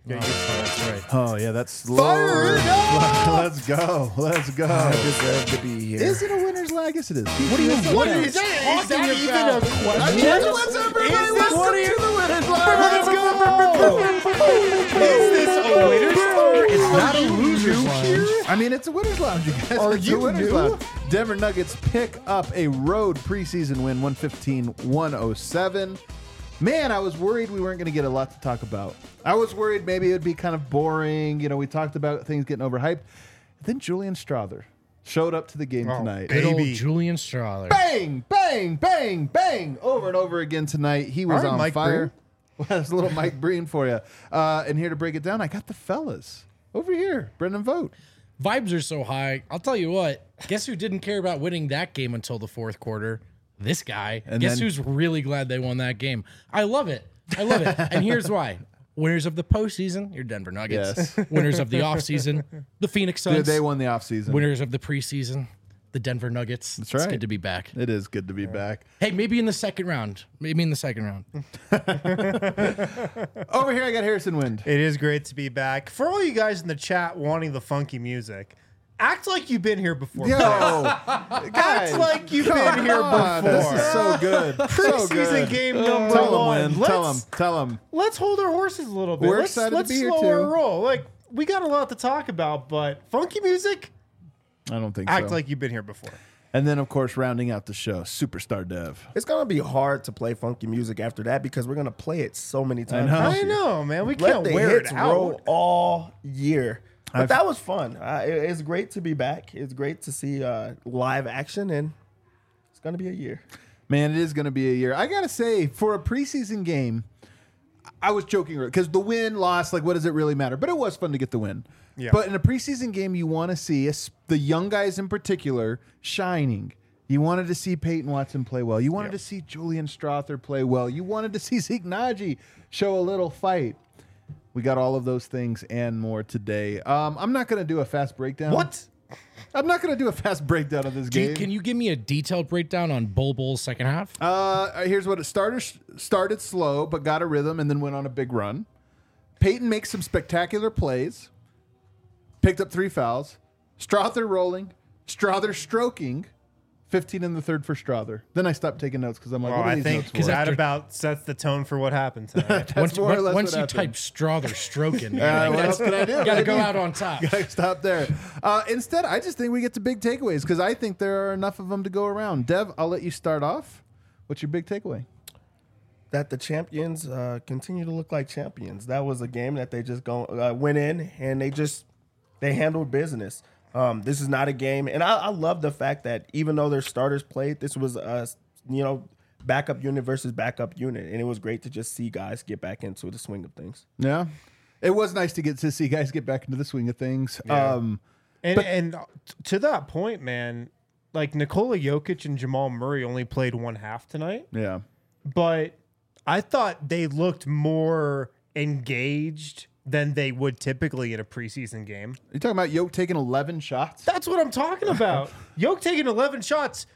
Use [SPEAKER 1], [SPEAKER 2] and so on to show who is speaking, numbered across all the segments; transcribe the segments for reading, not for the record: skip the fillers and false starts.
[SPEAKER 1] That's right.
[SPEAKER 2] Oh, yeah, that's
[SPEAKER 3] Fire it up!
[SPEAKER 2] Let's go. Let's go.
[SPEAKER 3] I deserve to be here.
[SPEAKER 2] Is it a winner's lag? I guess it is.
[SPEAKER 1] What do you
[SPEAKER 3] Is that even a question?
[SPEAKER 2] What's everybody? Welcome to the winner's
[SPEAKER 3] Let's go! Is this a winner's lounge?
[SPEAKER 1] It's not a loser's lounge.
[SPEAKER 2] I mean, it's a winner's lounge, you guys.
[SPEAKER 3] Are
[SPEAKER 2] It's a
[SPEAKER 3] you
[SPEAKER 2] winner's
[SPEAKER 3] new?
[SPEAKER 2] lounge. Denver Nuggets pick up a road preseason win, 115-107. Man, I was worried we weren't going to get a lot to talk about. I was worried maybe it would be kind of boring. You know, we talked about things getting overhyped. Then Julian Strother showed up to the game tonight.
[SPEAKER 1] Good old
[SPEAKER 3] Baby.
[SPEAKER 1] Julian Strother.
[SPEAKER 2] Bang, bang, bang, bang, over and over again tonight. He was
[SPEAKER 3] All right,
[SPEAKER 2] on
[SPEAKER 3] Mike
[SPEAKER 2] fire. Well, that's a little Mike Breen for you. And here to break it down, I got the fellas over here. Brendan Vogt.
[SPEAKER 1] Vibes are so high. I'll tell you what. Guess who didn't care about winning that game until the fourth quarter? This guy.
[SPEAKER 2] And
[SPEAKER 1] Guess
[SPEAKER 2] then-
[SPEAKER 1] who's really glad they won that game? I love it. I love it. And here's why. Winners of the postseason, your Denver Nuggets.
[SPEAKER 2] Yes.
[SPEAKER 1] Winners of the offseason, the Phoenix Suns.
[SPEAKER 2] They won the offseason.
[SPEAKER 1] Winners of the preseason, the Denver Nuggets.
[SPEAKER 2] That's
[SPEAKER 1] It's
[SPEAKER 2] right.
[SPEAKER 1] good to be back.
[SPEAKER 2] It is good to be back.
[SPEAKER 1] Hey, maybe in the second round. Maybe in the second round.
[SPEAKER 2] Over here, I got Harrison Wind.
[SPEAKER 3] It is great to be back. For all you guys in the chat wanting the funky music, act like you've been here before.
[SPEAKER 2] Yo,
[SPEAKER 3] Act
[SPEAKER 2] guys,
[SPEAKER 3] like you've been here
[SPEAKER 2] on.
[SPEAKER 3] before.
[SPEAKER 2] This is so good. So
[SPEAKER 3] Preseason
[SPEAKER 2] good.
[SPEAKER 3] game number
[SPEAKER 2] Tell him,
[SPEAKER 3] one.
[SPEAKER 2] Wind. Tell him.
[SPEAKER 3] Let's hold our horses a little bit.
[SPEAKER 2] We're
[SPEAKER 3] let's
[SPEAKER 2] excited to
[SPEAKER 3] let's
[SPEAKER 2] be here,
[SPEAKER 3] slow
[SPEAKER 2] too.
[SPEAKER 3] our roll. Like, we got a lot to talk about, but funky music,
[SPEAKER 2] I don't think
[SPEAKER 3] act
[SPEAKER 2] so.
[SPEAKER 3] like you've been here before.
[SPEAKER 2] And then, of course, rounding out the show, Superstar Dev.
[SPEAKER 4] It's gonna be hard to play funky music after that because we're gonna play it so many times.
[SPEAKER 2] know.
[SPEAKER 3] I know, man. We
[SPEAKER 4] Let
[SPEAKER 3] can't
[SPEAKER 4] the
[SPEAKER 3] wear
[SPEAKER 4] hits
[SPEAKER 3] it out.
[SPEAKER 4] roll all year. But that was fun. It's great to be back. It's great to see live action, and it's gonna be a year.
[SPEAKER 2] Man, it is going to be a year. I got to say, for a preseason game, I was joking because the win, loss, like, what does it really matter? But it was fun to get the win.
[SPEAKER 3] Yeah.
[SPEAKER 2] But in a preseason game, you want to see the young guys in particular shining. You wanted to see Peyton Watson play well. You wanted to see Julian Strother play well. You wanted to see Zeke Naji show a little fight. We got all of those things and more today. I'm not going to do a fast breakdown.
[SPEAKER 3] What?
[SPEAKER 2] I'm not going to do a fast breakdown of this game.
[SPEAKER 1] Can you give me a detailed breakdown on Bull's second half?
[SPEAKER 2] Here's what it started slow, but got a rhythm and then went on a big run. Peyton makes some spectacular plays. Picked up 3 fouls. Strother rolling. Strother stroking. 15 in the third for Strother. Then I stopped taking notes because I'm like,
[SPEAKER 3] Well,
[SPEAKER 2] what are
[SPEAKER 3] I
[SPEAKER 2] these
[SPEAKER 3] think
[SPEAKER 2] notes for?
[SPEAKER 3] that about sets the tone for what happened tonight.
[SPEAKER 2] That's more or less
[SPEAKER 1] Once
[SPEAKER 2] what
[SPEAKER 1] you
[SPEAKER 2] happened.
[SPEAKER 1] type Strother stroking,
[SPEAKER 2] what else can I do?
[SPEAKER 1] Got to go out on top.
[SPEAKER 2] Gotta stop there. Instead, I just think we get to big takeaways because I think there are enough of them to go around. Dev, I'll let you start off. What's your big takeaway?
[SPEAKER 4] That the champions continue to look like champions. That was a game that they just went in and they handled business. This is not a game, and I love the fact that even though their starters played, this was backup unit versus backup unit, and it was great to just see guys get back into the swing of things.
[SPEAKER 2] Yeah. It was nice to get to see guys get back into the swing of things.
[SPEAKER 3] Yeah. And to that point, man, like Nikola Jokic and Jamal Murray only played one half tonight,
[SPEAKER 2] Yeah.
[SPEAKER 3] but I thought they looked more engaged than they would typically in a preseason game.
[SPEAKER 2] You talking about Yoke taking 11 shots?
[SPEAKER 3] That's what I'm talking about. Yoke taking 11 shots,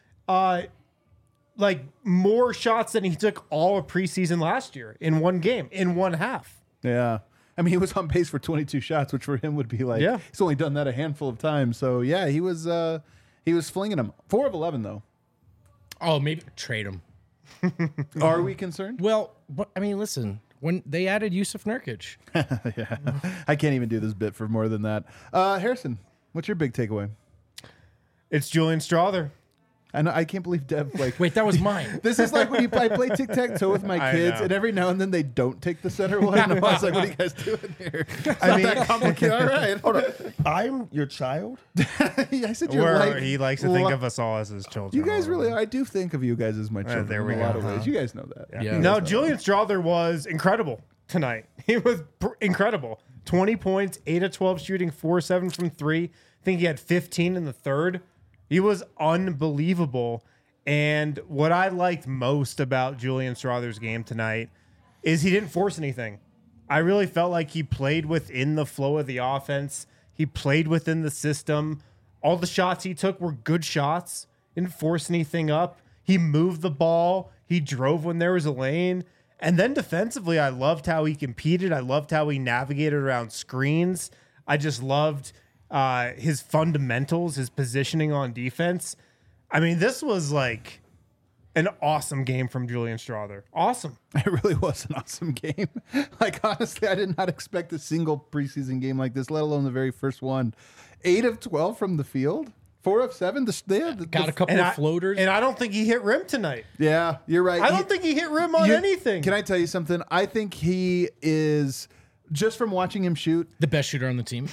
[SPEAKER 3] like more shots than he took all of preseason last year in one game, in one half.
[SPEAKER 2] Yeah. I mean, he was on pace for 22 shots, which for him would be like,
[SPEAKER 3] Yeah.
[SPEAKER 2] he's only done that a handful of times. So, yeah, he was flinging them. 4 of 11, though.
[SPEAKER 1] Oh, maybe trade him.
[SPEAKER 2] Are we concerned?
[SPEAKER 1] Well, but, I mean, listen. When they added Yusuf Nurkic,
[SPEAKER 2] Yeah. I can't even do this bit for more than that. Harrison, what's your big takeaway?
[SPEAKER 3] It's Julian Strother.
[SPEAKER 2] I can't believe Dev, like,
[SPEAKER 1] wait, that was mine.
[SPEAKER 2] this is like when I play tic-tac-toe with my
[SPEAKER 3] I
[SPEAKER 2] kids,
[SPEAKER 3] know.
[SPEAKER 2] and every now and then they don't take the center one. And I was like, what are you guys doing here? It's
[SPEAKER 3] I
[SPEAKER 2] not
[SPEAKER 3] mean-
[SPEAKER 2] that complicated. All right.
[SPEAKER 4] Hold on, I'm your child.
[SPEAKER 2] I said you're
[SPEAKER 3] Where
[SPEAKER 2] like,
[SPEAKER 3] he likes to think of us all as his children.
[SPEAKER 2] You guys really are. I do think of you guys as my children
[SPEAKER 3] there we
[SPEAKER 2] in a lot
[SPEAKER 3] go.
[SPEAKER 2] of ways. You guys know that.
[SPEAKER 1] Yeah.
[SPEAKER 3] No, Julian Strother was incredible tonight. He was incredible. 20 points, 8 of 12 shooting, 4-7 from 3. I think he had 15 in the third. He was unbelievable. And what I liked most about Julian Strother's game tonight is he didn't force anything. I really felt like he played within the flow of the offense. He played within the system. All the shots he took were good shots. Didn't force anything up. He moved the ball. He drove when there was a lane. And then defensively, I loved how he competed. I loved how he navigated around screens. I just loved his fundamentals, his positioning on defense. I mean, this was like an awesome game from Julian Strawther. Awesome.
[SPEAKER 2] It really was an awesome game. Like, honestly, I did not expect a single preseason game like this, let alone the very first one. 8 of 12 from the field. 4 of 7.
[SPEAKER 1] Got a couple of floaters.
[SPEAKER 3] And I don't think he hit rim tonight.
[SPEAKER 2] Yeah, you're right.
[SPEAKER 3] I don't think he hit rim on anything.
[SPEAKER 2] Can I tell you something? I think he is, just from watching him shoot,
[SPEAKER 1] the best shooter on the team.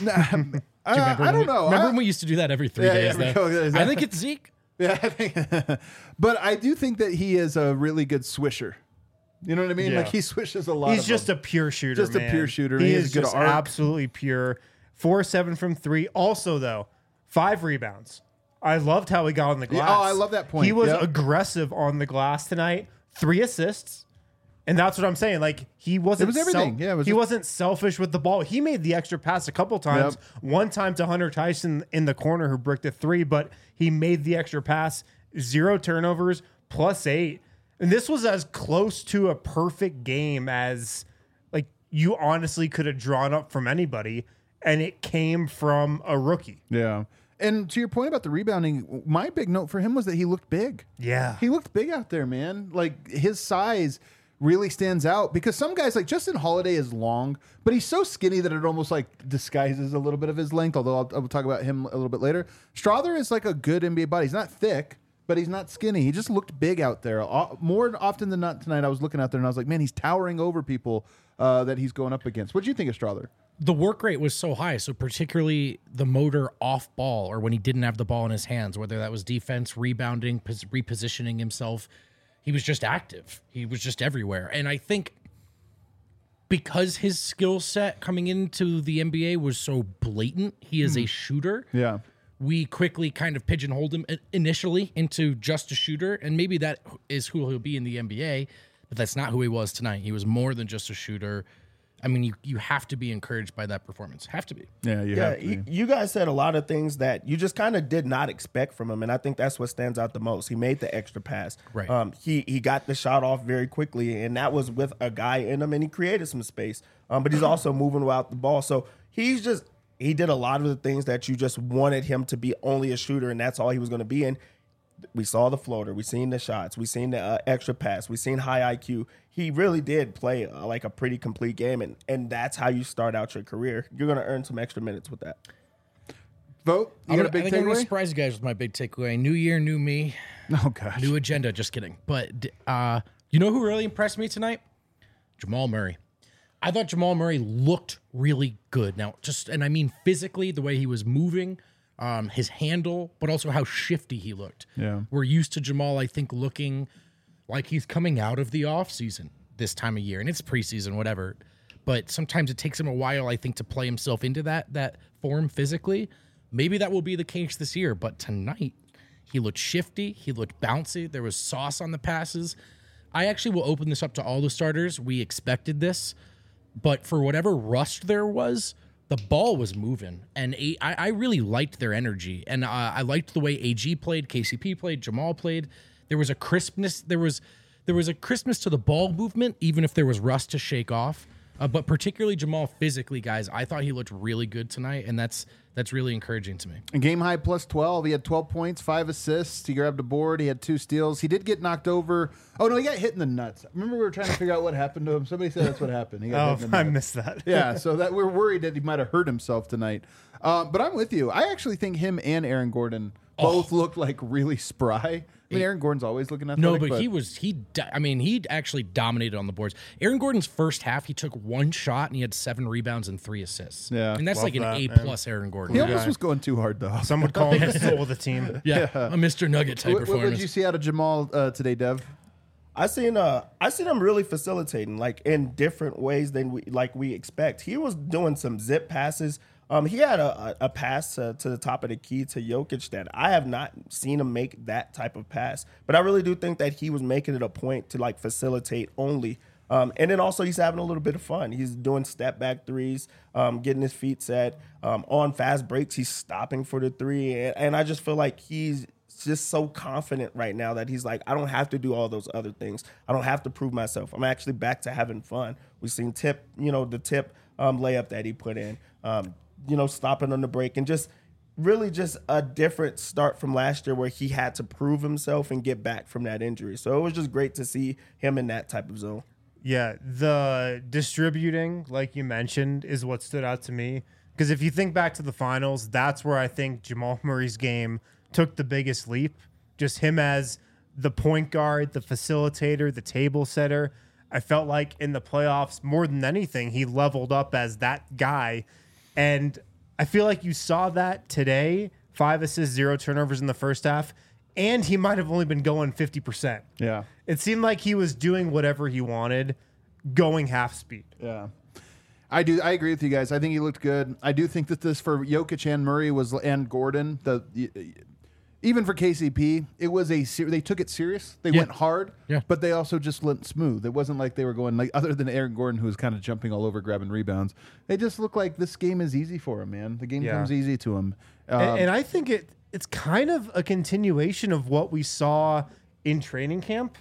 [SPEAKER 2] I don't know.
[SPEAKER 1] Remember when we used to do that every 3 days?
[SPEAKER 2] yeah,
[SPEAKER 1] though?
[SPEAKER 2] exactly.
[SPEAKER 1] I think it's Zeke.
[SPEAKER 2] Yeah, I think, but I do think that he is a really good swisher. You know what I mean?
[SPEAKER 3] Yeah.
[SPEAKER 2] Like, he swishes a lot.
[SPEAKER 3] He's just a pure shooter.
[SPEAKER 2] Just a
[SPEAKER 3] man.
[SPEAKER 2] pure shooter.
[SPEAKER 3] He
[SPEAKER 2] He has
[SPEAKER 3] is
[SPEAKER 2] a good
[SPEAKER 3] just
[SPEAKER 2] arc.
[SPEAKER 3] absolutely pure. 4-7 from 3. Also, though, 5 rebounds. I loved how he got on the glass.
[SPEAKER 2] Oh, I love that point.
[SPEAKER 3] He was
[SPEAKER 2] Yep.
[SPEAKER 3] aggressive on the glass tonight. 3 assists. And that's what I'm saying. Like, he wasn't.
[SPEAKER 2] It was everything. Yeah, it was
[SPEAKER 3] he
[SPEAKER 2] just-
[SPEAKER 3] wasn't selfish with the ball. He made the extra pass a couple times.
[SPEAKER 2] Yep.
[SPEAKER 3] One time to Hunter Tyson in the corner who bricked a 3, but he made the extra pass. 0 turnovers, +8. And this was as close to a perfect game as like you honestly could have drawn up from anybody, and it came from a rookie.
[SPEAKER 2] Yeah. And to your point about the rebounding, my big note for him was that he looked big.
[SPEAKER 3] Yeah.
[SPEAKER 2] He looked big out there, man. Like, his size really stands out because some guys, like Justin Holiday, is long, but he's so skinny that it almost like disguises a little bit of his length, although I'll talk about him a little bit later. Strawther is like a good NBA body. He's not thick, but he's not skinny. He just looked big out there. More often than not tonight, I was looking out there and I was like, man, he's towering over people that he's going up against. What do you think of Strawther?
[SPEAKER 1] The work rate was so high, so particularly the motor off ball or when he didn't have the ball in his hands, whether that was defense, rebounding, repositioning himself, he was just active. He was just everywhere. And I think because his skill set coming into the NBA was so blatant, he is a shooter.
[SPEAKER 2] Yeah.
[SPEAKER 1] We quickly kind of pigeonholed him initially into just a shooter, and maybe that is who he'll be in the NBA, but that's not who he was tonight. He was more than just a shooter. I mean, you have to be encouraged by that performance. Have to be.
[SPEAKER 2] Yeah,
[SPEAKER 4] You guys said a lot of things that you just kind of did not expect from him, and I think that's what stands out the most. He made the extra pass.
[SPEAKER 1] Right.
[SPEAKER 4] He got the shot off very quickly, and that was with a guy in him, and he created some space. But he's also moving without the ball, so he did a lot of the things that you just wanted him to be, only a shooter, and that's all he was going to be. And we saw the floater, we seen the shots, we seen the extra pass, we seen high IQ. He really did play like a pretty complete game, and that's how you start out your career. You're going to earn some extra minutes with that.
[SPEAKER 2] Vote. You got a
[SPEAKER 1] I
[SPEAKER 2] big
[SPEAKER 1] think I'm going to
[SPEAKER 2] takeaway?
[SPEAKER 1] surprise you guys with my big takeaway. New year, new me,
[SPEAKER 2] Oh gosh.
[SPEAKER 1] new agenda. Just kidding. But you know who really impressed me tonight? Jamal Murray. I thought Jamal Murray looked really good. Now, and I mean physically, the way he was moving, his handle, but also how shifty he looked.
[SPEAKER 2] Yeah.
[SPEAKER 1] We're used to Jamal, I think, looking like he's coming out of the offseason this time of year. And it's preseason, whatever. But sometimes it takes him a while, I think, to play himself into that form physically. Maybe that will be the case this year. But tonight, he looked shifty. He looked bouncy. There was sauce on the passes. I actually will open this up to all the starters. We expected this. But for whatever rust there was, the ball was moving. And I really liked their energy. And I liked the way AG played, KCP played, Jamal played. There was a crispness. There was a crispness to the ball movement, even if there was rust to shake off. But particularly Jamal physically, guys, I thought he looked really good tonight. And that's really encouraging to me.
[SPEAKER 2] And game high plus 12. He had 12 points, 5 assists. He grabbed a board. He had 2 steals. He did get knocked over. Oh, no, he got hit in the nuts. Remember we were trying to figure out what happened to him? Somebody said that's what happened. He got hit in the
[SPEAKER 3] I
[SPEAKER 2] nuts.
[SPEAKER 3] missed that.
[SPEAKER 2] Yeah, so that we're worried that he might have hurt himself tonight. But I'm with you. I actually think him and Aaron Gordon both looked like really spry. I mean, Aaron Gordon's always looking athletic.
[SPEAKER 1] No, but he actually dominated on the boards. Aaron Gordon's first half, he took 1 shot and he had 7 rebounds and 3 assists.
[SPEAKER 2] Yeah.
[SPEAKER 1] And that's
[SPEAKER 3] Love
[SPEAKER 1] like an
[SPEAKER 3] that,
[SPEAKER 1] A+ Aaron Gordon.
[SPEAKER 2] he almost was going too hard, though.
[SPEAKER 3] Some would call him the soul of the team.
[SPEAKER 1] Yeah, a Mr. Nugget type
[SPEAKER 2] What did
[SPEAKER 1] performance.
[SPEAKER 2] you see out of Jamal today, Dev?
[SPEAKER 4] I seen him really facilitating, like in different ways than we expect. He was doing some zip passes. He had a pass to the top of the key to Jokic that I have not seen him make that type of pass. But I really do think that he was making it a point to like facilitate only. And then also he's having a little bit of fun. He's doing step back threes, getting his feet set. On fast breaks, he's stopping for the 3. And I just feel like he's just so confident right now that he's like, I don't have to do all those other things. I don't have to prove myself. I'm actually back to having fun. We've seen the tip layup that he put in, stopping on the break, and just really just a different start from last year where he had to prove himself and get back from that injury. So it was just great to see him in that type of zone.
[SPEAKER 3] Yeah, the distributing, like you mentioned, is what stood out to me. Because if you think back to the finals, that's where I think Jamal Murray's game took the biggest leap. Just him as the point guard, the facilitator, the table setter. I felt like in the playoffs, more than anything, he leveled up as that guy. And I feel like you saw that today. 5 assists, 0 turnovers in the first half. And he might have only been going 50%.
[SPEAKER 2] Yeah.
[SPEAKER 3] It seemed like he was doing whatever he wanted, going half speed.
[SPEAKER 2] Yeah. I agree with you guys. I think he looked good. I do think that this for Jokic and Murray and Gordon, even for KCP, it was they took it serious. They went hard, but they also just went smooth. It wasn't like they were going like, other than Aaron Gordon, who was kind of jumping all over, grabbing rebounds. They just looked like this game is easy for him, man. The game comes easy to him.
[SPEAKER 3] And I think it's kind of a continuation of what we saw in training camp.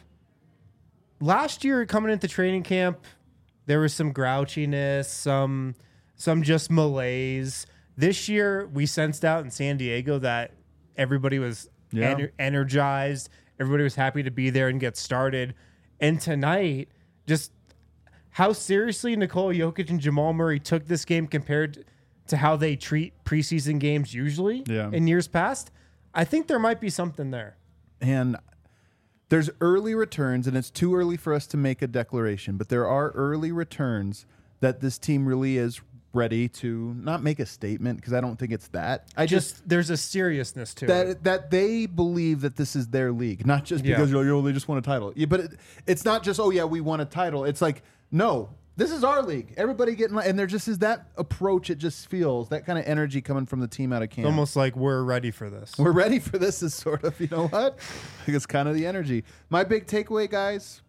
[SPEAKER 3] Last year, coming into training camp, there was some grouchiness, some just malaise. This year, we sensed out in San Diego that everybody was energized. Everybody was happy to be there and get started. And tonight, just how seriously Nikola Jokic and Jamal Murray took this game compared to how they treat preseason games usually in years past, I think there might be something there.
[SPEAKER 2] And there's early returns, and it's too early for us to make a declaration, but there are early returns that this team really is ready to not make a statement, because I don't think it's that.
[SPEAKER 3] There's a seriousness to it.
[SPEAKER 2] That they believe that this is their league, not just because they just won a title. Yeah, but it's not just, we won a title. It's like, no, this is our league. Everybody getting, and there just is that approach. It just feels that kind of energy coming from the team out of camp.
[SPEAKER 3] It's almost like we're ready for this.
[SPEAKER 2] We're ready for this is sort of, you know what? I think it's kind of the energy. My big takeaway, guys,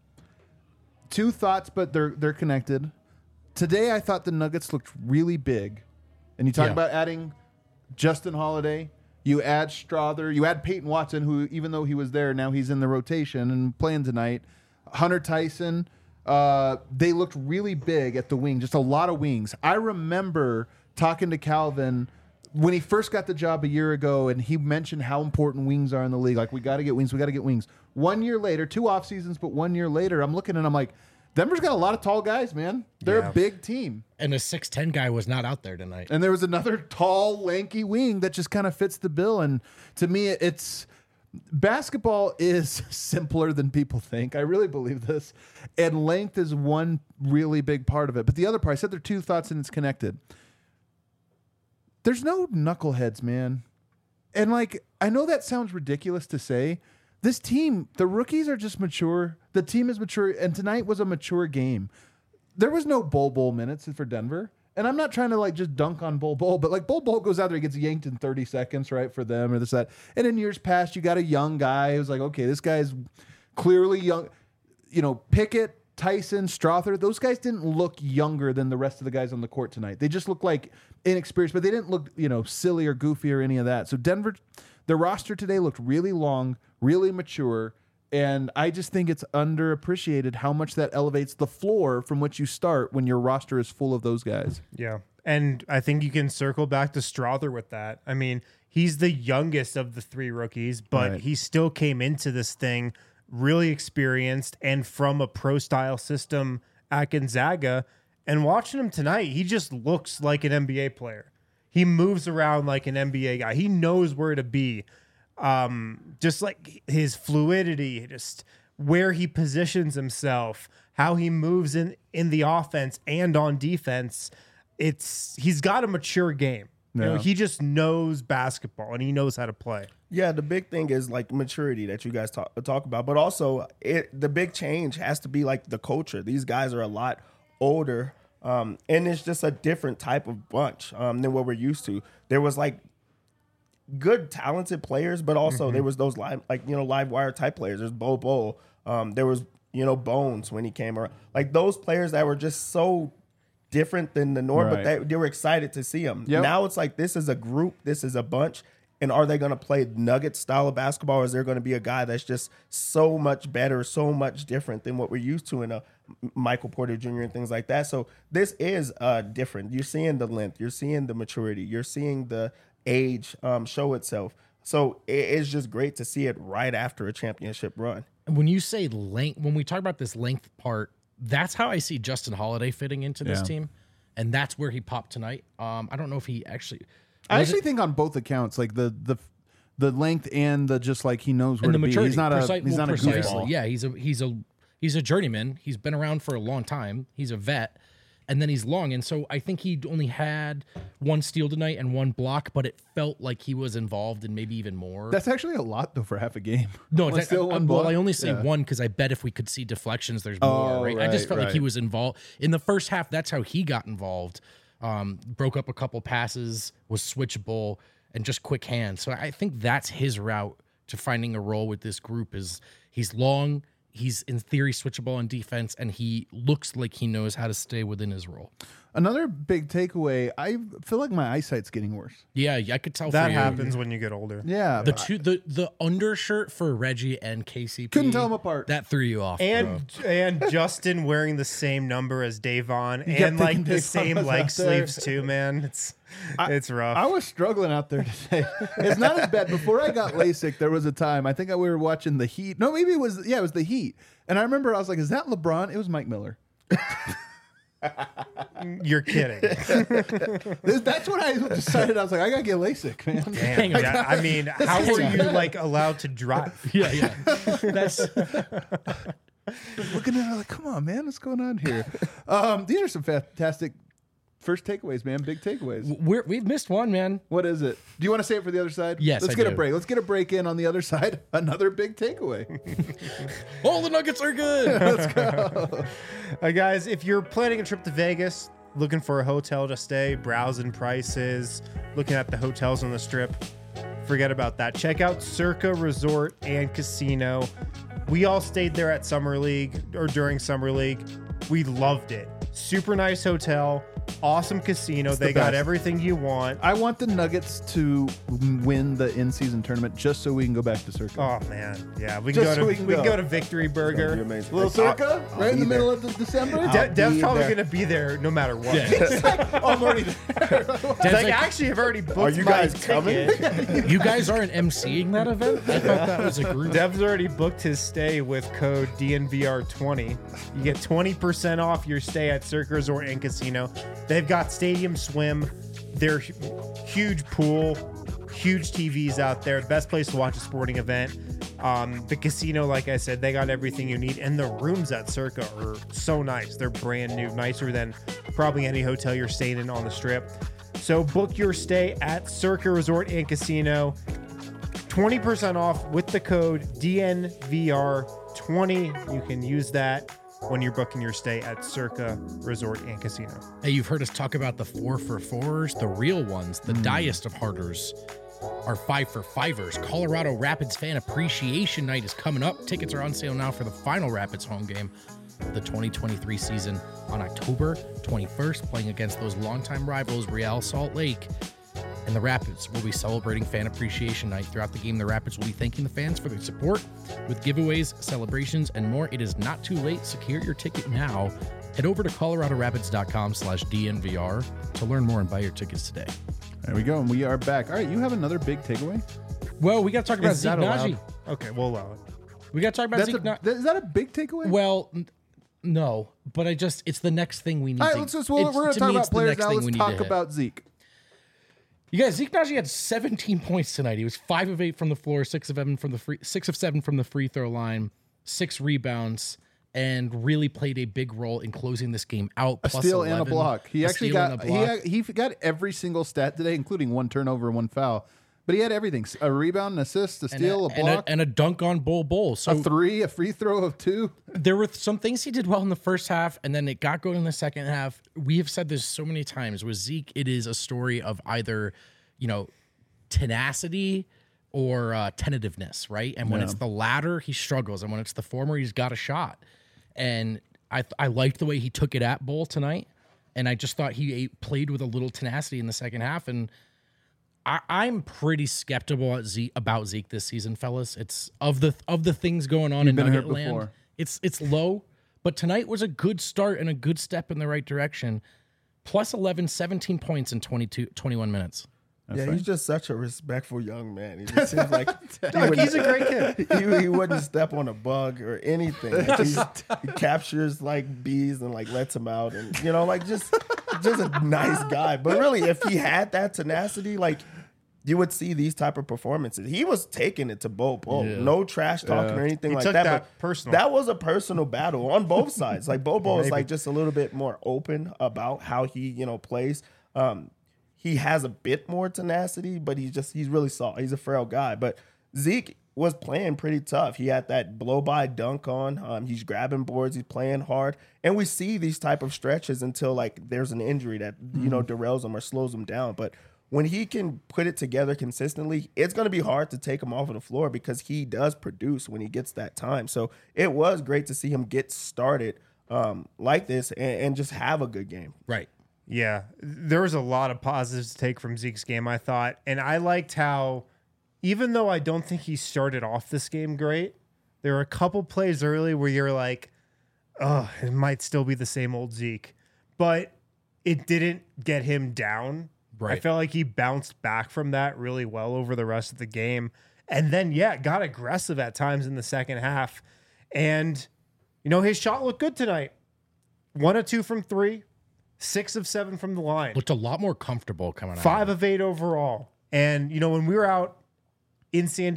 [SPEAKER 2] 2 thoughts, but they're connected. Today, I thought the Nuggets looked really big. And you talk about adding Justin Holiday. You add Strother. You add Peyton Watson, who, even though he was there, now he's in the rotation and playing tonight. Hunter Tyson. They looked really big at the wing, just a lot of wings. I remember talking to Calvin when he first got the job a year ago, and he mentioned how important wings are in the league. Like, we got to get wings. We got to get wings. 1 year later, 2 off seasons, but 1 year later, I'm looking and I'm like, Denver's got a lot of tall guys, man. They're a big team.
[SPEAKER 1] And a 6'10" guy was not out there tonight.
[SPEAKER 2] And there was another tall, lanky wing that just kind of fits the bill. And to me, basketball is simpler than people think. I really believe this. And length is one really big part of it. But the other part, I said there are 2 thoughts and it's connected. There's no knuckleheads, man. And I know that sounds ridiculous to say. This team, the rookies are just mature. The team is mature. And tonight was a mature game. There was no Bol minutes for Denver. And I'm not trying to just dunk on Bol, but Bol goes out there, he gets yanked in 30 seconds, right, for them or this, that. And in years past, you got a young guy who's like, okay, this guy's clearly young. Pickett, Tyson, Strother, those guys didn't look younger than the rest of the guys on the court tonight. They just looked like inexperienced, but they didn't look, silly or goofy or any of that. So Denver, the roster today looked really long, really mature. And I just think it's underappreciated how much that elevates the floor from which you start when your roster is full of those guys.
[SPEAKER 3] Yeah. And I think you can circle back to Strother with that. I mean, he's the youngest of the 3 rookies, but he still came into this thing really experienced and from a pro-style system at Gonzaga. And watching him tonight, he just looks like an NBA player. He moves around like an NBA guy. He knows where to be. Just like his fluidity, just where he positions himself, how he moves in the offense and on defense. He's got a mature game. He just knows basketball and he knows how to play.
[SPEAKER 4] Yeah, the big thing is maturity that you guys talk about, but also the big change has to be the culture. These guys are a lot older, and it's just a different type of bunch than what we're used to. There was good, talented players, but also there was those live wire type players. There's Bol. There was Bones when he came around. Those players that were just so different than the norm, but they were excited to see him. Yep. Now it's this is a group, this is a bunch, And are they going to play Nuggets style of basketball, or is there going to be a guy that's just so much better, so much different than what we're used to in a Michael Porter Jr. and things like that? So this is different. You're seeing the length, you're seeing the maturity, you're seeing the age show itself. So it's just great to see it right after a championship run.
[SPEAKER 1] When you say length, when we talk about this length part, that's how I see Justin Holiday fitting into this team, and that's where he popped tonight. I don't know if he actually.
[SPEAKER 2] I actually think on both accounts, like the length and the just like he knows where
[SPEAKER 1] and the
[SPEAKER 2] to be.
[SPEAKER 1] maturity.
[SPEAKER 2] He's not a
[SPEAKER 1] Precisely.
[SPEAKER 2] goofball.
[SPEAKER 1] Yeah, he's a journeyman. He's been around for a long time. He's a vet, and then he's long. And so I think he only had one steal tonight and one block, but it felt like he was involved in maybe even more.
[SPEAKER 2] That's actually a lot though for half a game.
[SPEAKER 1] No,
[SPEAKER 2] One steal, one
[SPEAKER 1] well,
[SPEAKER 2] block?
[SPEAKER 1] I only say
[SPEAKER 2] Yeah.
[SPEAKER 1] one because I bet if we could see deflections, there's more. Right? I just felt like he was involved in the first half. That's how he got involved. Broke up a couple passes, was switchable, and just quick hands. So I think that's his route to finding a role with this group. Is he's long, he's in theory switchable on defense, and he looks like he knows how to stay within his role.
[SPEAKER 2] Another big takeaway. I feel like my eyesight's getting worse.
[SPEAKER 1] Yeah, I could tell
[SPEAKER 3] That
[SPEAKER 1] for you.
[SPEAKER 3] happens when you get older.
[SPEAKER 2] Yeah,
[SPEAKER 1] The undershirt for Reggie and KCP
[SPEAKER 2] Couldn't tell 'em apart.
[SPEAKER 1] That threw you off, bro.
[SPEAKER 3] And Justin wearing the same number as Davon
[SPEAKER 2] kept
[SPEAKER 3] and like
[SPEAKER 2] thinking
[SPEAKER 3] the
[SPEAKER 2] Davon
[SPEAKER 3] same
[SPEAKER 2] was
[SPEAKER 3] leg
[SPEAKER 2] out there.
[SPEAKER 3] sleeves too, man. It's rough.
[SPEAKER 2] I was struggling out there today. It's not as bad. Before I got LASIK, there was a time, I think we were watching the Heat. No, maybe it was the Heat. And I remember I was like, is that LeBron? It was Mike Miller.
[SPEAKER 3] You're kidding.
[SPEAKER 2] That's when I decided. I was like, I got to get LASIK, man.
[SPEAKER 1] Hang on.
[SPEAKER 3] Yeah, I mean, how were you like allowed to drive?
[SPEAKER 1] Yeah. That's
[SPEAKER 2] Looking at it like, come on, man, what's going on here? These are some fantastic first takeaways, man. Big takeaways.
[SPEAKER 1] we've missed one, man.
[SPEAKER 2] What is it? Do you want to say it for the other side?
[SPEAKER 1] Yes,
[SPEAKER 2] Let's
[SPEAKER 1] I
[SPEAKER 2] get a
[SPEAKER 1] do.
[SPEAKER 2] break. Let's get a break in on the other side. Another big takeaway.
[SPEAKER 1] All the Nuggets are good.
[SPEAKER 3] Guys, if you're planning a trip to Vegas, looking for a hotel to stay, browsing prices, looking at the hotels on the strip, forget about that. Check out Circa Resort and Casino. We all stayed there at Summer League or during Summer League. We loved it. Super nice hotel, awesome casino.
[SPEAKER 2] the
[SPEAKER 3] They got
[SPEAKER 2] best.
[SPEAKER 3] everything you want.
[SPEAKER 2] I want the Nuggets to win the in-season tournament just so we can go back to Circa.
[SPEAKER 3] Oh man, yeah, we can
[SPEAKER 2] Just
[SPEAKER 3] go
[SPEAKER 2] so
[SPEAKER 3] to
[SPEAKER 2] we can
[SPEAKER 3] we can
[SPEAKER 2] go.
[SPEAKER 3] go to Victory Burger.
[SPEAKER 4] Be amazing.
[SPEAKER 2] Little Circa,
[SPEAKER 4] I'll
[SPEAKER 2] right in
[SPEAKER 4] be
[SPEAKER 2] the middle
[SPEAKER 4] there.
[SPEAKER 2] of December.
[SPEAKER 3] Dev's
[SPEAKER 4] be
[SPEAKER 3] probably
[SPEAKER 4] there.
[SPEAKER 3] gonna be there no matter what.
[SPEAKER 2] Oh, I'm already there.
[SPEAKER 3] It's like, actually, I've already booked
[SPEAKER 4] Are you
[SPEAKER 3] my
[SPEAKER 4] guys
[SPEAKER 3] ticket.
[SPEAKER 4] coming?
[SPEAKER 1] You guys aren't emceeing that event? I thought that was a group.
[SPEAKER 3] Dev's already booked his stay with code DNVR20. You get 20% off your stay at Circa Resort and Casino. They've got stadium swim, their huge pool, huge TVs out there. Best place to watch a sporting event. The casino, like I said, they got everything you need. And the rooms at Circa are so nice. They're brand new, nicer than probably any hotel you're staying in on the strip. So book your stay at Circa Resort and Casino. 20% off with the code DNVR20. You can use that when you're booking your stay at Circa Resort and Casino.
[SPEAKER 1] Hey, you've heard us talk about the 4-for-4s, the real ones, the diest of harders are 5-for-5ers. Colorado Rapids Fan Appreciation Night is coming up. Tickets are on sale now for the final Rapids home game of the 2023 season on October 21st, playing against those longtime rivals, Real Salt Lake. And the Rapids will be celebrating Fan Appreciation Night. Throughout the game, the Rapids will be thanking the fans for their support with giveaways, celebrations, and more. It is not too late. Secure your ticket now. Head over to coloradorapids.com/DNVR to learn more and buy your tickets today.
[SPEAKER 2] There we go, and we are back. All right, you have another big takeaway?
[SPEAKER 1] Well, we got to talk about
[SPEAKER 3] Is
[SPEAKER 1] Zeke
[SPEAKER 3] that allowed?
[SPEAKER 1] Naji.
[SPEAKER 3] Okay, we'll allow it.
[SPEAKER 1] We got to talk about Zeke Naji.
[SPEAKER 2] Is that a big takeaway?
[SPEAKER 1] Well, no, but it's the next thing we need.
[SPEAKER 2] All right,
[SPEAKER 1] to,
[SPEAKER 2] we're going to talk about players now. Let's talk
[SPEAKER 1] about.
[SPEAKER 2] about Zeke.
[SPEAKER 1] You guys, Zeke Naji had 17 points tonight. He was 5 of 8 from the floor, 6 of 7 from the free throw line, 6 rebounds, and really played a big role in closing this game out.
[SPEAKER 2] A
[SPEAKER 1] Plus
[SPEAKER 2] steal
[SPEAKER 1] 11,
[SPEAKER 2] and a block. He actually
[SPEAKER 1] steal and
[SPEAKER 2] got
[SPEAKER 1] a block.
[SPEAKER 2] he got every single stat today, including 1 turnover and 1 foul. But he had everything: a rebound, an assist, a steal, a block,
[SPEAKER 1] and a dunk on Bull. So
[SPEAKER 2] a 3, a free throw of 2.
[SPEAKER 1] there were some things he did well in the first half, and then it got going in the second half. We have said this so many times with Zeke. It is a story of either, tenacity or tentativeness, right? And when it's the latter, he struggles, and when it's the former, he's got a shot. And I liked the way he took it at Bull tonight, and I just thought he played with a little tenacity in the second half. And I'm pretty skeptical about Zeke this season, fellas. It's of the things going on in
[SPEAKER 2] been
[SPEAKER 1] Nugget
[SPEAKER 2] hurt
[SPEAKER 1] land.
[SPEAKER 2] before.
[SPEAKER 1] It's low, but tonight was a good start and a good step in the right direction. Plus 11, 17 points in 21 minutes.
[SPEAKER 4] He's just such a respectful young man. He just seems like
[SPEAKER 3] He's a great kid.
[SPEAKER 4] he wouldn't step on a bug or anything. Like, he captures like bees and like lets them out, and like just a nice guy. But really, if he had that tenacity, like you would see these type of performances. He was taking it to Bo. No trash talking or anything like
[SPEAKER 3] took
[SPEAKER 4] that.
[SPEAKER 3] that
[SPEAKER 4] But
[SPEAKER 3] personal.
[SPEAKER 4] that was a personal battle on both sides. Like Bo is like just a little bit more open about how he plays. He has a bit more tenacity, but he's really soft. He's a frail guy. But Zeke was playing pretty tough. He had that blow-by dunk on. He's grabbing boards. He's playing hard. And we see these type of stretches until, like, there's an injury that, derails him or slows him down. But when he can put it together consistently, it's going to be hard to take him off of the floor because he does produce when he gets that time. So it was great to see him get started like this and just have a good game.
[SPEAKER 1] Right.
[SPEAKER 3] Yeah, there was a lot of positives to take from Zeke's game, I thought. And I liked how, even though I don't think he started off this game great, there were a couple plays early where you're like, oh, it might still be the same old Zeke. But it didn't get him down.
[SPEAKER 1] Right.
[SPEAKER 3] I felt like he bounced back from that really well over the rest of the game. And then, got aggressive at times in the second half. And, his shot looked good tonight. 1 of 2 from 3. 6 of 7 from the line.
[SPEAKER 1] Looked a lot more comfortable coming out.
[SPEAKER 3] 5 of 8 overall. And when we were out in San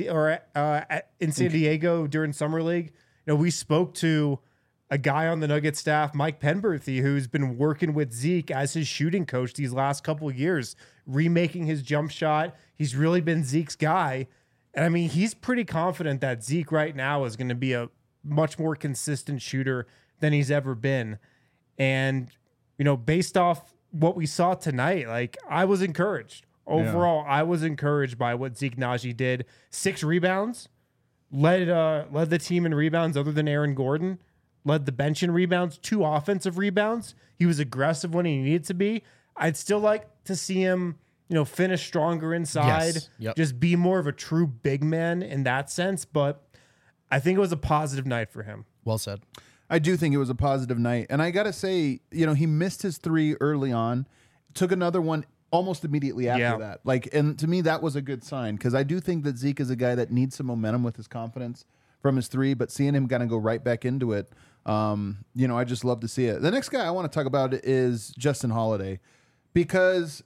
[SPEAKER 3] Diego during summer league, we spoke to a guy on the Nuggets staff, Mike Penberthy, who's been working with Zeke as his shooting coach these last couple of years, remaking his jump shot. He's really been Zeke's guy. And I mean, he's pretty confident that Zeke right now is going to be a much more consistent shooter than he's ever been. And based off what we saw tonight, like, I was encouraged. Overall, I was encouraged by what Zeke Naji did. 6 rebounds, led the team in rebounds other than Aaron Gordon, led the bench in rebounds, 2 offensive rebounds. He was aggressive when he needed to be. I'd still like to see him, finish stronger inside,
[SPEAKER 1] Yes. Yep.
[SPEAKER 3] just be more of a true big man in that sense. But I think it was a positive night for him.
[SPEAKER 1] Well said.
[SPEAKER 2] I do think it was a positive night. And I got to say, he missed his 3 early on, took another one almost immediately after that. And to me, that was a good sign because I do think that Zeke is a guy that needs some momentum with his confidence from his 3, but seeing him kind of go right back into it, I just love to see it. The next guy I want to talk about is Justin Holiday because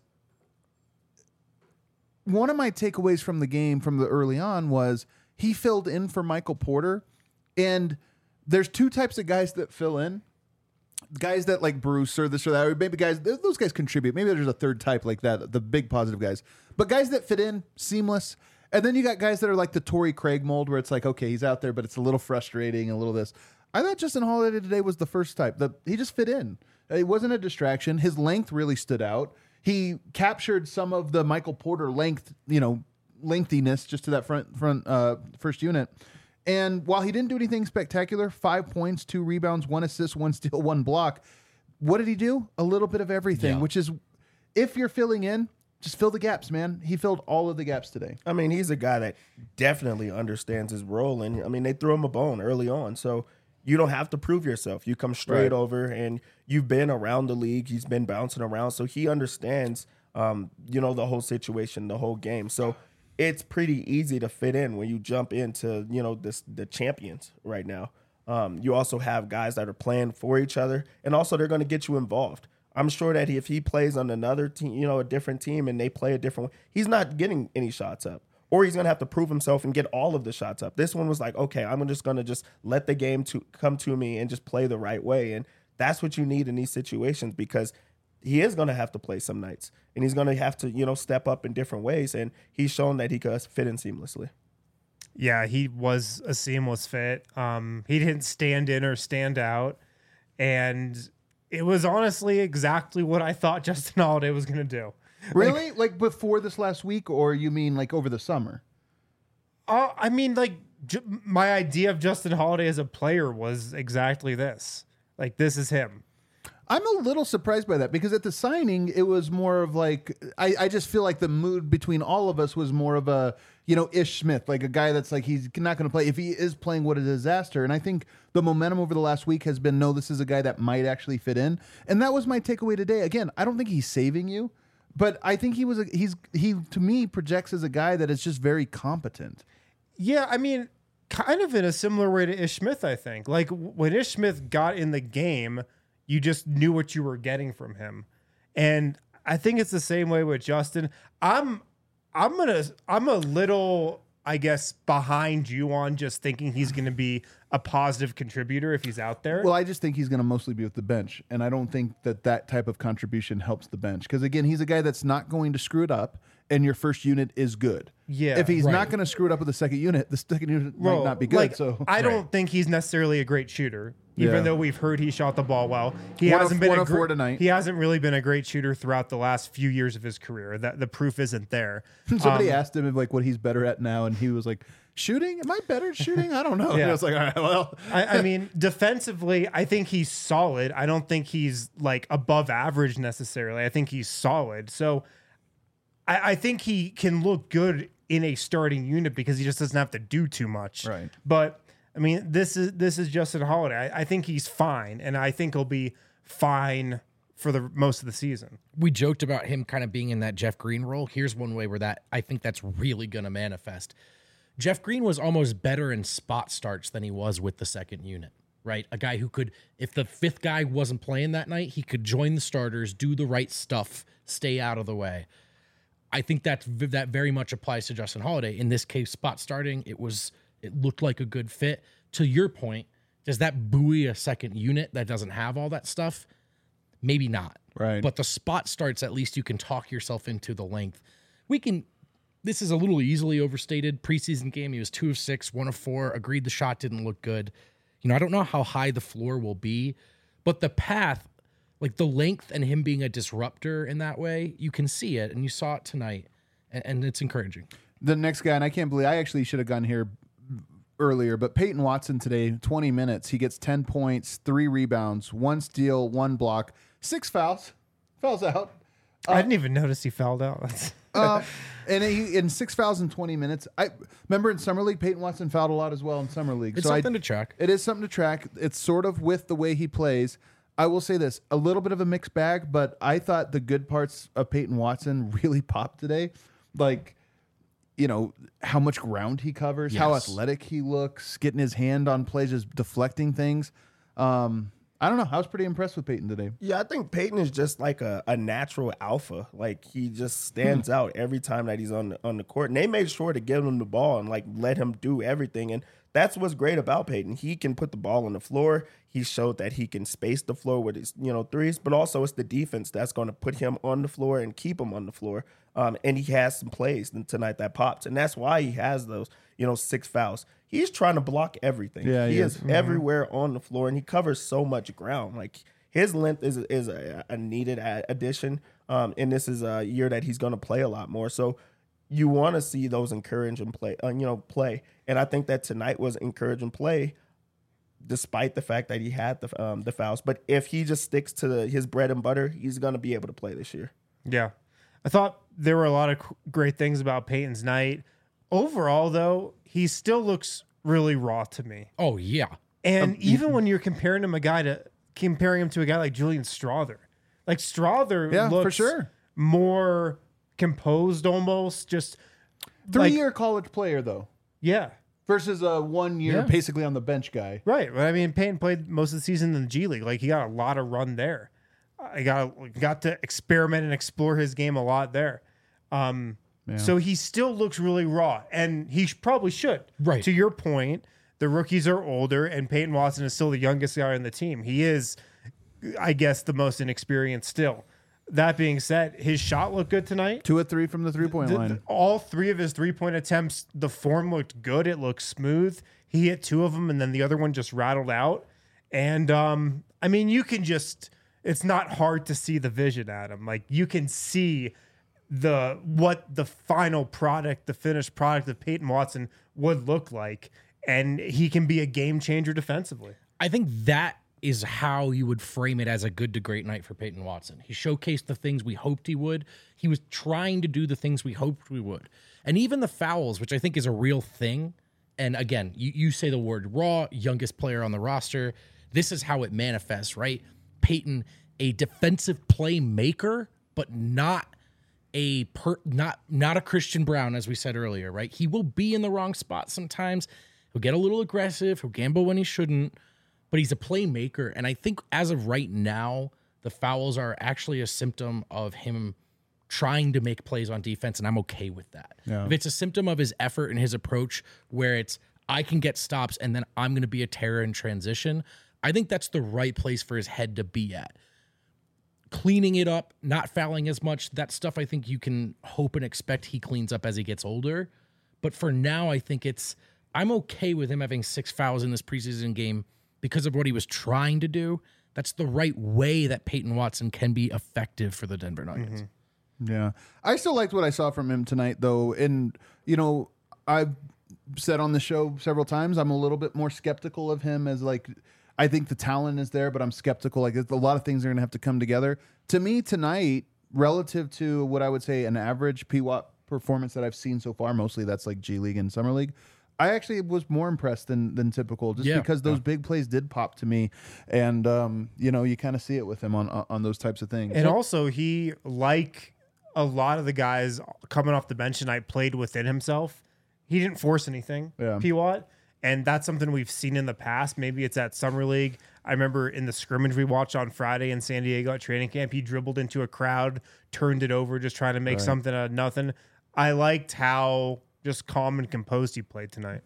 [SPEAKER 2] one of my takeaways from the game from the early on was he filled in for Michael Porter. And there's 2 types of guys that fill in. Guys that like Bruce or this or that, or maybe those guys contribute. Maybe there's a third type like that, the big positive guys. But guys that fit in, seamless. And then you got guys that are like the Torrey Craig mold where it's like, okay, he's out there, but it's a little frustrating, a little this. I thought Justin Holiday today was the first type. He just fit in. He wasn't a distraction. His length really stood out. He captured some of the Michael Porter lengthiness just to that front first unit. And while he didn't do anything spectacular, 5 points, 2 rebounds, 1 assist, 1 steal, 1 block. What did he do? A little bit of everything, which is, if you're filling in, just fill the gaps, man. He filled all of the gaps today.
[SPEAKER 4] I mean, he's a guy that definitely understands his role. And, I mean, they threw him a bone early on. So you don't have to prove yourself. You come straight over, and you've been around the league. He's been bouncing around. So he understands, the whole situation, the whole game. So it's pretty easy to fit in when you jump into, the champions right now. You also have guys that are playing for each other, and also they're going to get you involved. I'm sure that if he plays on another team, a different team, and they play a different way, he's not getting any shots up, or he's going to have to prove himself and get all of the shots up. This one was like, okay, I'm just going to let the game come to me and just play the right way. And that's what you need in these situations, because he is going to have to play some nights, and he's going to have to, step up in different ways. And he's shown that he could fit in seamlessly.
[SPEAKER 3] Yeah, he was a seamless fit. He didn't stand in or stand out. And it was honestly exactly what I thought Justin Holiday was going to do.
[SPEAKER 2] Really? Like before this last week, or you mean like over the summer?
[SPEAKER 3] I mean, like, my idea of Justin Holiday as a player was exactly this. Like, this is him.
[SPEAKER 2] I'm a little surprised by that because at the signing, it was more of like, I just feel like the mood between all of us was more of a, Ish Smith, like a guy that's like, he's not going to play. If he is playing, what a disaster. And I think the momentum over the last week has been, no, this is a guy that might actually fit in. And that was my takeaway today. Again, I don't think he's saving you, but I think he to me projects as a guy that is just very competent.
[SPEAKER 3] Yeah, I mean, kind of in a similar way to Ish Smith, I think. Like when Ish Smith got in the game, you just knew what you were getting from him. And I think it's the same way with Justin. I'm a little, I guess, behind you on just thinking he's going to be a positive contributor if he's out there.
[SPEAKER 2] Well, I just think he's going to mostly be with the bench, and I don't think that type of contribution helps the bench because again, he's a guy that's not going to screw it up, and your first unit is good.
[SPEAKER 3] Yeah,
[SPEAKER 2] if he's not going to screw it up with the second unit might not be good.
[SPEAKER 3] Like,
[SPEAKER 2] so
[SPEAKER 3] I don't think he's necessarily a great shooter. Even though we've heard he shot the ball well, he
[SPEAKER 2] One
[SPEAKER 3] hasn't
[SPEAKER 2] of
[SPEAKER 3] been
[SPEAKER 2] four tonight.
[SPEAKER 3] He hasn't really been a great shooter throughout the last few years of his career. That the proof isn't there.
[SPEAKER 2] Somebody asked him like what he's better at now, and he was like, "Shooting? Am I better at shooting? I don't know."
[SPEAKER 3] Yeah.
[SPEAKER 2] And I was like, "All right, well."
[SPEAKER 3] I mean, defensively, I think he's solid. I don't think he's like above average necessarily. I think he's solid. So I think he can look good in a starting unit because he just doesn't have to do too much.
[SPEAKER 2] Right.
[SPEAKER 3] But I mean, this is Justin Holiday. I think he's fine, and I think he'll be fine for the most of the season.
[SPEAKER 1] We joked about him kind of being in that Jeff Green role. Here's one way where I think that's really going to manifest. Jeff Green was almost better in spot starts than he was with the second unit, right? A guy who could, if the fifth guy wasn't playing that night, he could join the starters, do the right stuff, stay out of the way. I think that very much applies to Justin Holiday. In this case, spot starting, it looked like a good fit. To your point, does that buoy a second unit that doesn't have all that stuff? Maybe not.
[SPEAKER 2] Right.
[SPEAKER 1] But the spot starts, at least you can talk yourself into the length. This is a little easily overstated. Preseason game, he was 2 of 6, 1 of 4. Agreed the shot didn't look good. I don't know how high the floor will be, but the path, like the length and him being a disruptor in that way, you can see it, and you saw it tonight, and it's encouraging.
[SPEAKER 2] The next guy, and I can't believe I actually should have gone here earlier, but Peyton Watson today, 20 minutes, he gets 10 points, 3 rebounds, 1 steal, 1 block, 6 fouls out.
[SPEAKER 3] I didn't even notice he fouled out.
[SPEAKER 2] And in 6 fouls in 20 minutes. I remember in Summer League, Peyton Watson fouled a lot as well in Summer League.
[SPEAKER 1] It's something to track.
[SPEAKER 2] It is something to track. It's sort of with the way he plays. I will say this, a little bit of a mixed bag, but I thought the good parts of Peyton Watson really popped today. Like, how much ground he covers, how athletic he looks, getting his hand on plays, just deflecting things. I don't know. I was pretty impressed with Peyton today.
[SPEAKER 4] Yeah, I think Peyton is just like a natural alpha. Like he just stands out every time that he's on the court. And they made sure to give him the ball and like let him do everything. And that's what's great about Peyton. He can put the ball on the floor. He showed that he can space the floor with his threes, but also it's the defense that's going to put him on the floor and keep him on the floor. And he has some plays tonight that popped, and that's why he has those 6 fouls. He's trying to block everything.
[SPEAKER 2] Yeah,
[SPEAKER 4] he is everywhere on the floor, and he covers so much ground. Like his length is a needed addition, and this is a year that he's going to play a lot more. So you want to see those encouraging play. And I think that tonight was encouraging play, despite the fact that he had the fouls. But if he just sticks to his bread and butter, he's going to be able to play this year.
[SPEAKER 3] Yeah. I thought there were a lot of great things about Peyton's night. Overall, though, he still looks really raw to me.
[SPEAKER 1] Oh, yeah.
[SPEAKER 3] And even when you're comparing him to a guy like Julian Strawther, like Strawther looks
[SPEAKER 2] for sure
[SPEAKER 3] more composed almost. Just
[SPEAKER 2] 3-year college player, though.
[SPEAKER 3] Yeah.
[SPEAKER 2] Versus a 1 year basically on the bench guy.
[SPEAKER 3] Right. But I mean, Peyton played most of the season in the G League. Like he got a lot of run there. I got to experiment and explore his game a lot there. So he still looks really raw, and he probably should.
[SPEAKER 1] Right.
[SPEAKER 3] To your point, the rookies are older, and Peyton Watson is still the youngest guy on the team. He is, I guess, the most inexperienced still. That being said, his shot looked good tonight.
[SPEAKER 2] 2 of 3 from the 3-point line.
[SPEAKER 3] All 3 of his 3-point attempts, the form looked good. It looked smooth. He hit 2 of them, and then the other one just rattled out. And, I mean, you can just... It's not hard to see the vision, Adam. Like you can see what the final product, the finished product of Peyton Watson would look like, and he can be a game changer defensively.
[SPEAKER 1] I think that is how you would frame it as a good to great night for Peyton Watson. He showcased the things we hoped he would. He was trying to do the things we hoped we would. And even the fouls, which I think is a real thing. And again, you say the word raw, youngest player on the roster. This is how it manifests, right? Peyton, a defensive playmaker, but not a Christian Brown, as we said earlier, right? He will be in the wrong spot sometimes. He'll get a little aggressive. He'll gamble when he shouldn't, but he's a playmaker. And I think as of right now, the fouls are actually a symptom of him trying to make plays on defense, and I'm okay with that.
[SPEAKER 2] Yeah.
[SPEAKER 1] If it's a symptom of his effort and his approach where it's, I can get stops and then I'm going to be a terror in transition, I think that's the right place for his head to be at. Cleaning it up, not fouling as much, that stuff I think you can hope and expect he cleans up as he gets older. But for now, I think I'm okay with him having 6 fouls in this preseason game because of what he was trying to do. That's the right way that Peyton Watson can be effective for the Denver Nuggets.
[SPEAKER 2] Mm-hmm. Yeah. I still liked what I saw from him tonight, though. And, you know, I've said on the show several times, I'm a little bit more skeptical of him as like, I think the talent is there, but I'm skeptical. Like a lot of things are going to have to come together. To me tonight, relative to what I would say an average P-Watt performance that I've seen so far, mostly that's like G League and Summer League, I actually was more impressed than typical, just because those big plays did pop to me, and you know, you kind of see it with him on those types of things.
[SPEAKER 3] And also, he, like a lot of the guys coming off the bench tonight, played within himself. He didn't force anything, P-Watt, and that's something we've seen in the past. Maybe it's at Summer League. I remember in the scrimmage we watched on Friday in San Diego at training camp, he dribbled into a crowd, turned it over, just trying to make something out of nothing. I liked how just calm and composed he played tonight.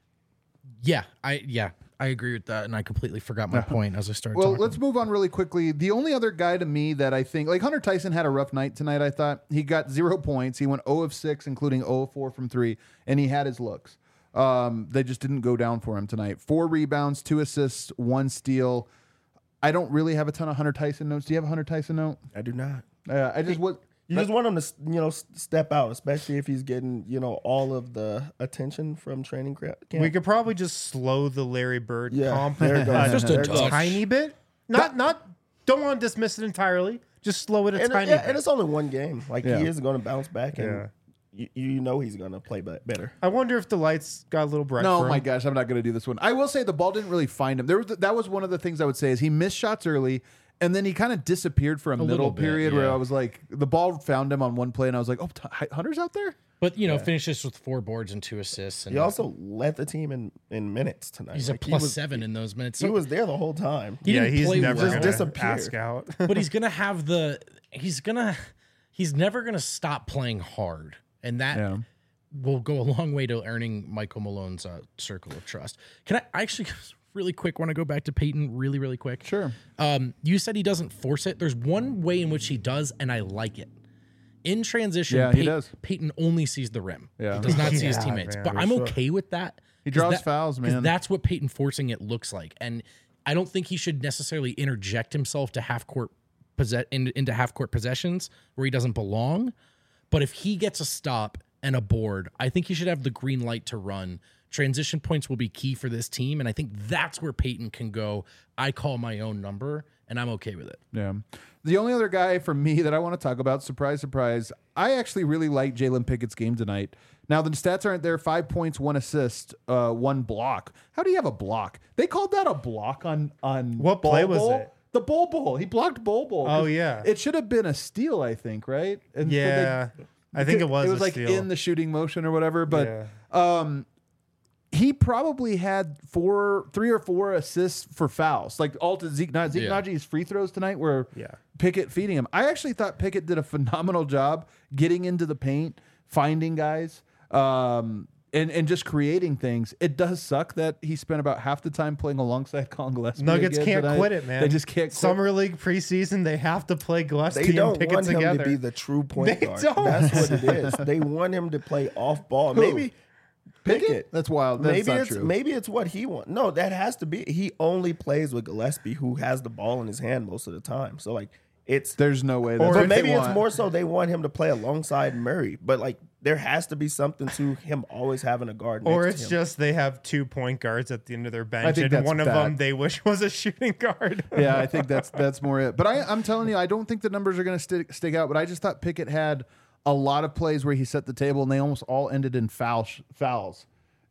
[SPEAKER 1] I agree with that, and I completely forgot my point as I started
[SPEAKER 2] Well,
[SPEAKER 1] talking.
[SPEAKER 2] let's move on really quickly. The only other guy to me that I think, like Hunter Tyson had a rough night tonight, I thought. He got 0 points. He went 0 of 6, including 0 of 4 from 3, and he had his looks. They just didn't go down for him tonight. 4 rebounds, 2 assists, 1 steal. I don't really have a ton of Hunter Tyson notes. Do you have a Hunter Tyson note?
[SPEAKER 4] I do not.
[SPEAKER 2] You
[SPEAKER 4] just want him to, you know, step out, especially if he's getting, you know, all of the attention from training camp.
[SPEAKER 3] We could probably just slow the Larry Bird comp
[SPEAKER 4] there it goes.
[SPEAKER 1] Just a
[SPEAKER 4] There it goes.
[SPEAKER 1] touch.
[SPEAKER 3] tiny bit. Don't want to dismiss it entirely. Just slow it a tiny bit.
[SPEAKER 4] And it's only one game. Like
[SPEAKER 2] Yeah.
[SPEAKER 4] he is going to bounce back, and you know he's going to play better.
[SPEAKER 3] I wonder if the lights got a little bright.
[SPEAKER 2] No,
[SPEAKER 3] for him.
[SPEAKER 2] my gosh, I'm not going to do this one. I will say the ball didn't really find him. That was one of the things I would say is he missed shots early, and then he kind of disappeared for a middle
[SPEAKER 1] little bit,
[SPEAKER 2] period where
[SPEAKER 1] yeah.
[SPEAKER 2] I was like, the ball found him on one play, and I was like, oh, Hunter's out there?
[SPEAKER 1] But, you know, finishes with 4 boards and 2 assists. And
[SPEAKER 4] He also led the team in minutes tonight.
[SPEAKER 1] he's
[SPEAKER 4] Like,
[SPEAKER 1] a plus 7 in those minutes.
[SPEAKER 4] He was there the whole time.
[SPEAKER 1] He didn't
[SPEAKER 3] he's
[SPEAKER 1] play
[SPEAKER 3] never
[SPEAKER 1] well.
[SPEAKER 3] going
[SPEAKER 4] Just
[SPEAKER 3] to
[SPEAKER 4] disappeared.
[SPEAKER 3] ask out.
[SPEAKER 1] But he's going to have he's never going to stop playing hard. And that will go a long way to earning Michael Malone's circle of trust. Can I actually really quick want to go back to Peyton really, really quick?
[SPEAKER 2] Sure.
[SPEAKER 1] You said he doesn't force it. There's one way in which he does, and I like it. In transition,
[SPEAKER 2] Yeah, he does.
[SPEAKER 1] Peyton only sees the rim.
[SPEAKER 2] Yeah.
[SPEAKER 1] He does not see his
[SPEAKER 3] Yeah,
[SPEAKER 1] teammates.
[SPEAKER 3] man,
[SPEAKER 1] But
[SPEAKER 3] for
[SPEAKER 1] I'm
[SPEAKER 3] sure.
[SPEAKER 1] okay with that.
[SPEAKER 2] He
[SPEAKER 1] 'Cause
[SPEAKER 2] draws fouls,
[SPEAKER 1] 'cause
[SPEAKER 2] man.
[SPEAKER 1] That's what Peyton forcing it looks like. And I don't think he should necessarily interject himself to into half court possessions where he doesn't belong. But if he gets a stop and a board, I think he should have the green light to run. Transition points will be key for this team, and I think that's where Peyton can go. I call my own number, and I'm okay with it.
[SPEAKER 2] Yeah. The only other guy for me that I want to talk about, surprise, surprise, I actually really like Jalen Pickett's game tonight. Now, the stats aren't there. 5 points, 1 assist, 1 block. How do you have a block? They called that a block on
[SPEAKER 3] What play was
[SPEAKER 2] Bol.
[SPEAKER 3] it?
[SPEAKER 2] The Bol. He blocked Bol.
[SPEAKER 3] Oh, yeah.
[SPEAKER 2] It should have been a steal, I think, right? And so
[SPEAKER 3] Yeah. I think it was
[SPEAKER 2] It was
[SPEAKER 3] a
[SPEAKER 2] like
[SPEAKER 3] steal.
[SPEAKER 2] in the shooting motion or whatever. But
[SPEAKER 3] Yeah.
[SPEAKER 2] he probably had 3 or 4 assists for fouls, like all to Zeke Najee's free throws tonight were Pickett feeding him. I actually thought Pickett did a phenomenal job getting into the paint, finding guys, and just creating things. It does suck that he spent about half the time playing alongside Colin Gillespie.
[SPEAKER 3] Nuggets
[SPEAKER 2] again
[SPEAKER 3] can't
[SPEAKER 2] tonight.
[SPEAKER 3] quit it, man.
[SPEAKER 2] They just can't quit.
[SPEAKER 3] Summer League preseason, they have to play Gillespie
[SPEAKER 4] They
[SPEAKER 3] and
[SPEAKER 4] don't
[SPEAKER 3] Pickett
[SPEAKER 4] want him
[SPEAKER 3] together.
[SPEAKER 4] to be the true point
[SPEAKER 3] They
[SPEAKER 4] guard.
[SPEAKER 3] don't.
[SPEAKER 4] That's what it is. They want him to play off ball. Maybe Pickett.
[SPEAKER 2] That's wild. That's
[SPEAKER 4] Maybe
[SPEAKER 2] not
[SPEAKER 4] it's
[SPEAKER 2] true.
[SPEAKER 4] maybe it's what he wants. No, that has to be. He only plays with Gillespie, who has the ball in his hand most of the time. So like,
[SPEAKER 2] There's no way.
[SPEAKER 4] Or
[SPEAKER 2] That's what
[SPEAKER 4] maybe
[SPEAKER 2] they
[SPEAKER 4] it's
[SPEAKER 2] want.
[SPEAKER 4] more so they want him to play alongside Murray, but like there has to be something to him always having a guard.
[SPEAKER 3] Or
[SPEAKER 4] next
[SPEAKER 3] it's
[SPEAKER 4] to him.
[SPEAKER 3] just they have 2 point guards at the end of their bench,
[SPEAKER 2] think
[SPEAKER 3] and
[SPEAKER 2] that's
[SPEAKER 3] one of
[SPEAKER 2] that.
[SPEAKER 3] them they wish was a shooting guard.
[SPEAKER 2] Yeah, I think that's more it. But I'm telling you, I don't think the numbers are going to stick out. But I just thought Pickett had a lot of plays where he set the table, and they almost all ended in fouls,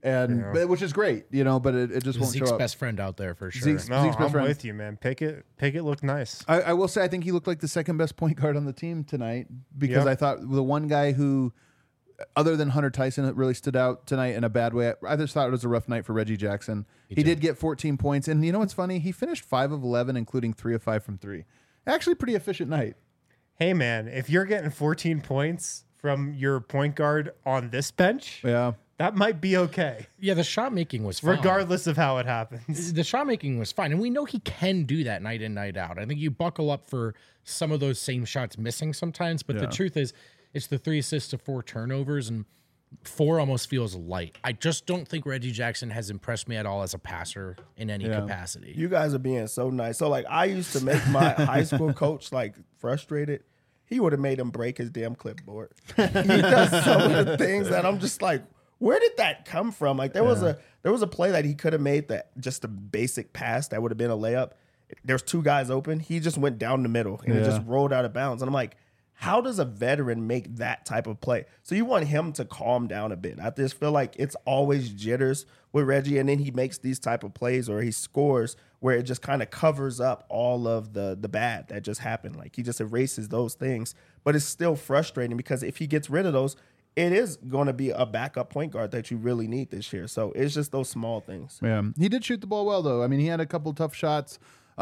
[SPEAKER 2] and which is great, But it just won't
[SPEAKER 1] Zeke's
[SPEAKER 2] show up.
[SPEAKER 1] best friend out there for sure.
[SPEAKER 2] Zeke's
[SPEAKER 3] No,
[SPEAKER 2] best
[SPEAKER 3] I'm
[SPEAKER 2] friend.
[SPEAKER 3] with you, man. Pickett looked nice.
[SPEAKER 2] I will say I think he looked like the second best point guard on the team tonight because
[SPEAKER 3] Yep.
[SPEAKER 2] I thought the one guy who, other than Hunter Tyson, it really stood out tonight in a bad way. I just thought it was a rough night for Reggie Jackson. He did get 14 points, and you know what's funny? He finished 5 of 11, including 3 of 5 from 3. Actually, pretty efficient night.
[SPEAKER 3] Hey, man, if you're getting 14 points from your point guard on this bench,
[SPEAKER 2] Yeah.
[SPEAKER 3] that might be okay,
[SPEAKER 1] Yeah, the shot making was fine.
[SPEAKER 3] regardless of how it happens.
[SPEAKER 1] The shot making was fine, and we know he can do that night in, night out. I think you buckle up for some of those same shots missing sometimes, but the truth is, it's the 3 assists to 4 turnovers, and 4 almost feels light. I just don't think Reggie Jackson has impressed me at all as a passer in any capacity.
[SPEAKER 4] You guys are being so nice. So like I used to make my high school coach like frustrated. He would have made him break his damn clipboard. He does some of the things that I'm just like, where did that come from? Like there was a play that he could have made that just a basic pass that would have been a layup. There's 2 guys open. He just went down the middle and it just rolled out of bounds. And I'm like, how does a veteran make that type of play? So you want him to calm down a bit. I just feel like it's always jitters with Reggie, and then he makes these type of plays or he scores where it just kind of covers up all of the bad that just happened. Like he just erases those things, but it's still frustrating because if he gets rid of those, it is going to be a backup point guard that you really need this year. So it's just those small things.
[SPEAKER 2] Yeah. He did shoot the ball well, though. I mean, he had a couple tough shots.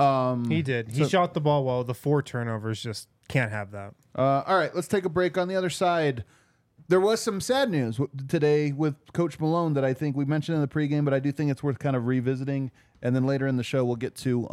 [SPEAKER 3] He did. He shot the ball well. The 4 turnovers just can't have that.
[SPEAKER 2] All right, let's take a break. On the other side, there was some sad news today with Coach Malone that I think we mentioned in the pregame, but I do think it's worth kind of revisiting. And then later in the show, we'll get to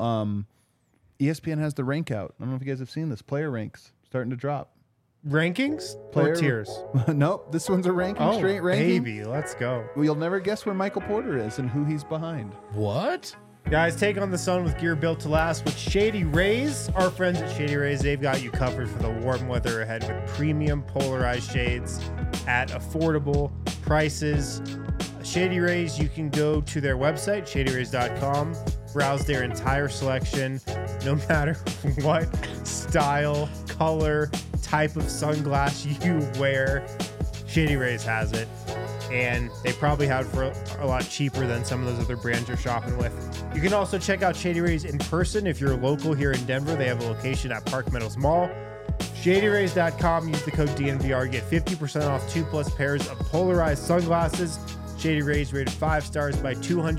[SPEAKER 2] ESPN has the rank out. I don't know if you guys have seen this. Player ranks starting to drop.
[SPEAKER 3] Rankings
[SPEAKER 2] Player-
[SPEAKER 3] or tiers?
[SPEAKER 2] Nope, this one's a ranking, straight ranking.
[SPEAKER 3] baby, let's go.
[SPEAKER 2] Well, you'll never guess where Michael Porter is and who he's behind.
[SPEAKER 1] What?
[SPEAKER 3] Guys, take on the sun with gear built to last with Shady Rays. Our friends at Shady Rays, they've got you covered for the warm weather ahead with premium polarized shades at affordable prices. Shady Rays, you can go to their website, shadyrays.com, browse their entire selection, no matter what style, color, type of sunglass you wear. Shady Rays has it. And they probably have it for a lot cheaper than some of those other brands you're shopping with. You can also check out Shady Rays in person. If you're local here in Denver, they have a location at Park Meadows Mall. ShadyRays.com. Use the code DNVR. Get 50% off 2+ pairs of polarized sunglasses. Shady Rays rated 5 stars by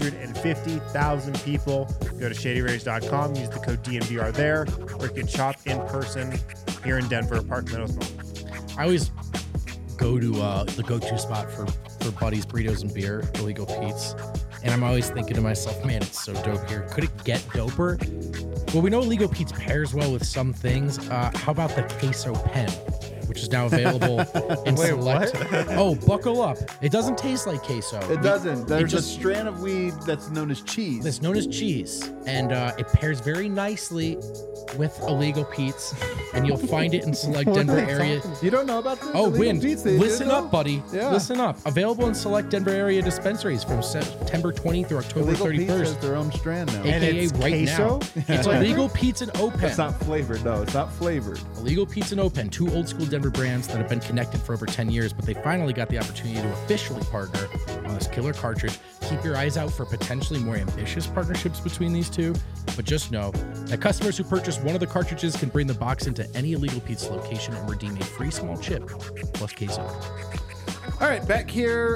[SPEAKER 3] 250,000 people. Go to ShadyRays.com. Use the code DNVR there. Or you can shop in person here in Denver, Park Meadows Mall.
[SPEAKER 1] I always go to the go-to spot for Buddy's Burritos and Beer, Illegal Pete's. And I'm always thinking to myself, man, it's so dope here. Could it get doper? Well, we know Illegal Pete's pairs well with some things. How about the queso pen, which is now available in
[SPEAKER 3] Wait,
[SPEAKER 1] select. Oh, buckle up. It doesn't taste like queso.
[SPEAKER 2] It doesn't. There's
[SPEAKER 1] just-
[SPEAKER 2] a strand of weed that's known as cheese.
[SPEAKER 1] It's known as cheese, and it pairs very nicely with Illegal Pete's, and you'll find it in select Denver area.
[SPEAKER 2] You don't know about this?
[SPEAKER 1] Oh,
[SPEAKER 2] Illegal
[SPEAKER 1] Win,
[SPEAKER 2] Pete's, they
[SPEAKER 1] listen
[SPEAKER 2] did
[SPEAKER 1] up,
[SPEAKER 2] know?
[SPEAKER 1] buddy.
[SPEAKER 2] Yeah.
[SPEAKER 1] Listen up. Available in select Denver area dispensaries from September 20th through October
[SPEAKER 2] Illegal Pete's has
[SPEAKER 1] 31st.
[SPEAKER 2] their own strand now.
[SPEAKER 3] And
[SPEAKER 1] AKA
[SPEAKER 3] it's
[SPEAKER 1] right
[SPEAKER 3] queso?
[SPEAKER 1] now. It's Illegal Pete's and Open.
[SPEAKER 2] It's not flavored, no. It's not flavored.
[SPEAKER 1] Illegal Pete's and Open, 2 old school Denver brands that have been connected for over 10 years, but they finally got the opportunity to officially partner on this killer cartridge. Keep your eyes out for potentially more ambitious partnerships between these two, but just know that customers who purchase one of the cartridges can bring the box into any Illegal Pete's location and redeem a free small chip plus queso.
[SPEAKER 2] All right, back here.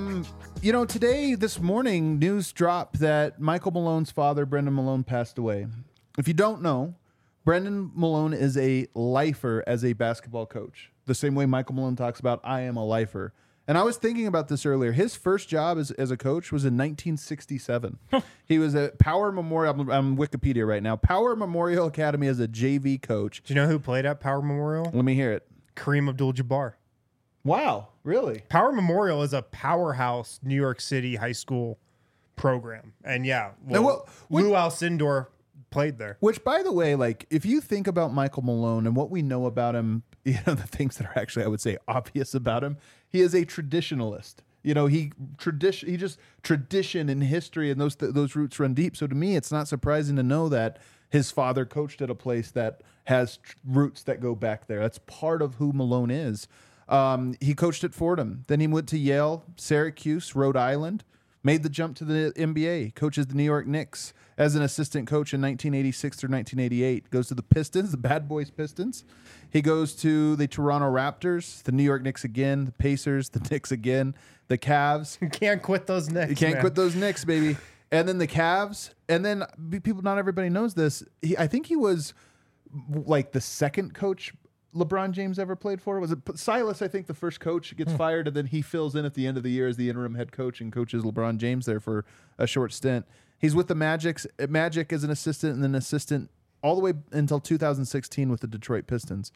[SPEAKER 2] Today, this morning, news dropped that Michael Malone's father, Brendan Malone, passed away. If you don't know, Brendan Malone is a lifer as a basketball coach. The same way Michael Malone talks about, I am a lifer. And I was thinking about this earlier. His first job as a coach was in 1967. He was at Power Memorial. I'm Wikipedia right now. Power Memorial Academy as a JV coach.
[SPEAKER 3] Do you know who played at Power Memorial?
[SPEAKER 2] Let me hear it.
[SPEAKER 3] Kareem Abdul-Jabbar.
[SPEAKER 2] Wow, really?
[SPEAKER 3] Power Memorial is a powerhouse New York City high school program. And yeah,
[SPEAKER 2] Now, what-
[SPEAKER 3] Lou Alcindor played there.
[SPEAKER 2] Which, by the way, like if you think about Michael Malone and what we know about him, the things that are actually, I would say, obvious about him, he is a traditionalist. He just tradition and history, and those roots run deep. So to me, it's not surprising to know that his father coached at a place that has roots that go back there. That's part of who Malone is. He coached at Fordham. Then he went to Yale, Syracuse, Rhode Island, made the jump to the NBA, coaches the New York Knicks as an assistant coach in 1986 through 1988. Goes to the Pistons, the Bad Boys Pistons. He goes to the Toronto Raptors, the New York Knicks again, the Pacers, the Knicks again, the Cavs.
[SPEAKER 3] You can't quit those Knicks.
[SPEAKER 2] You can't quit those Knicks, baby. And then the Cavs. And then people, not everybody knows this. I think he was like the second coach LeBron James ever played for. Was it Silas? I think the first coach gets fired, and then he fills in at the end of the year as the interim head coach and coaches LeBron James there for a short stint. He's with the Magic as an assistant, and then assistant all the way until 2016 with the Detroit Pistons.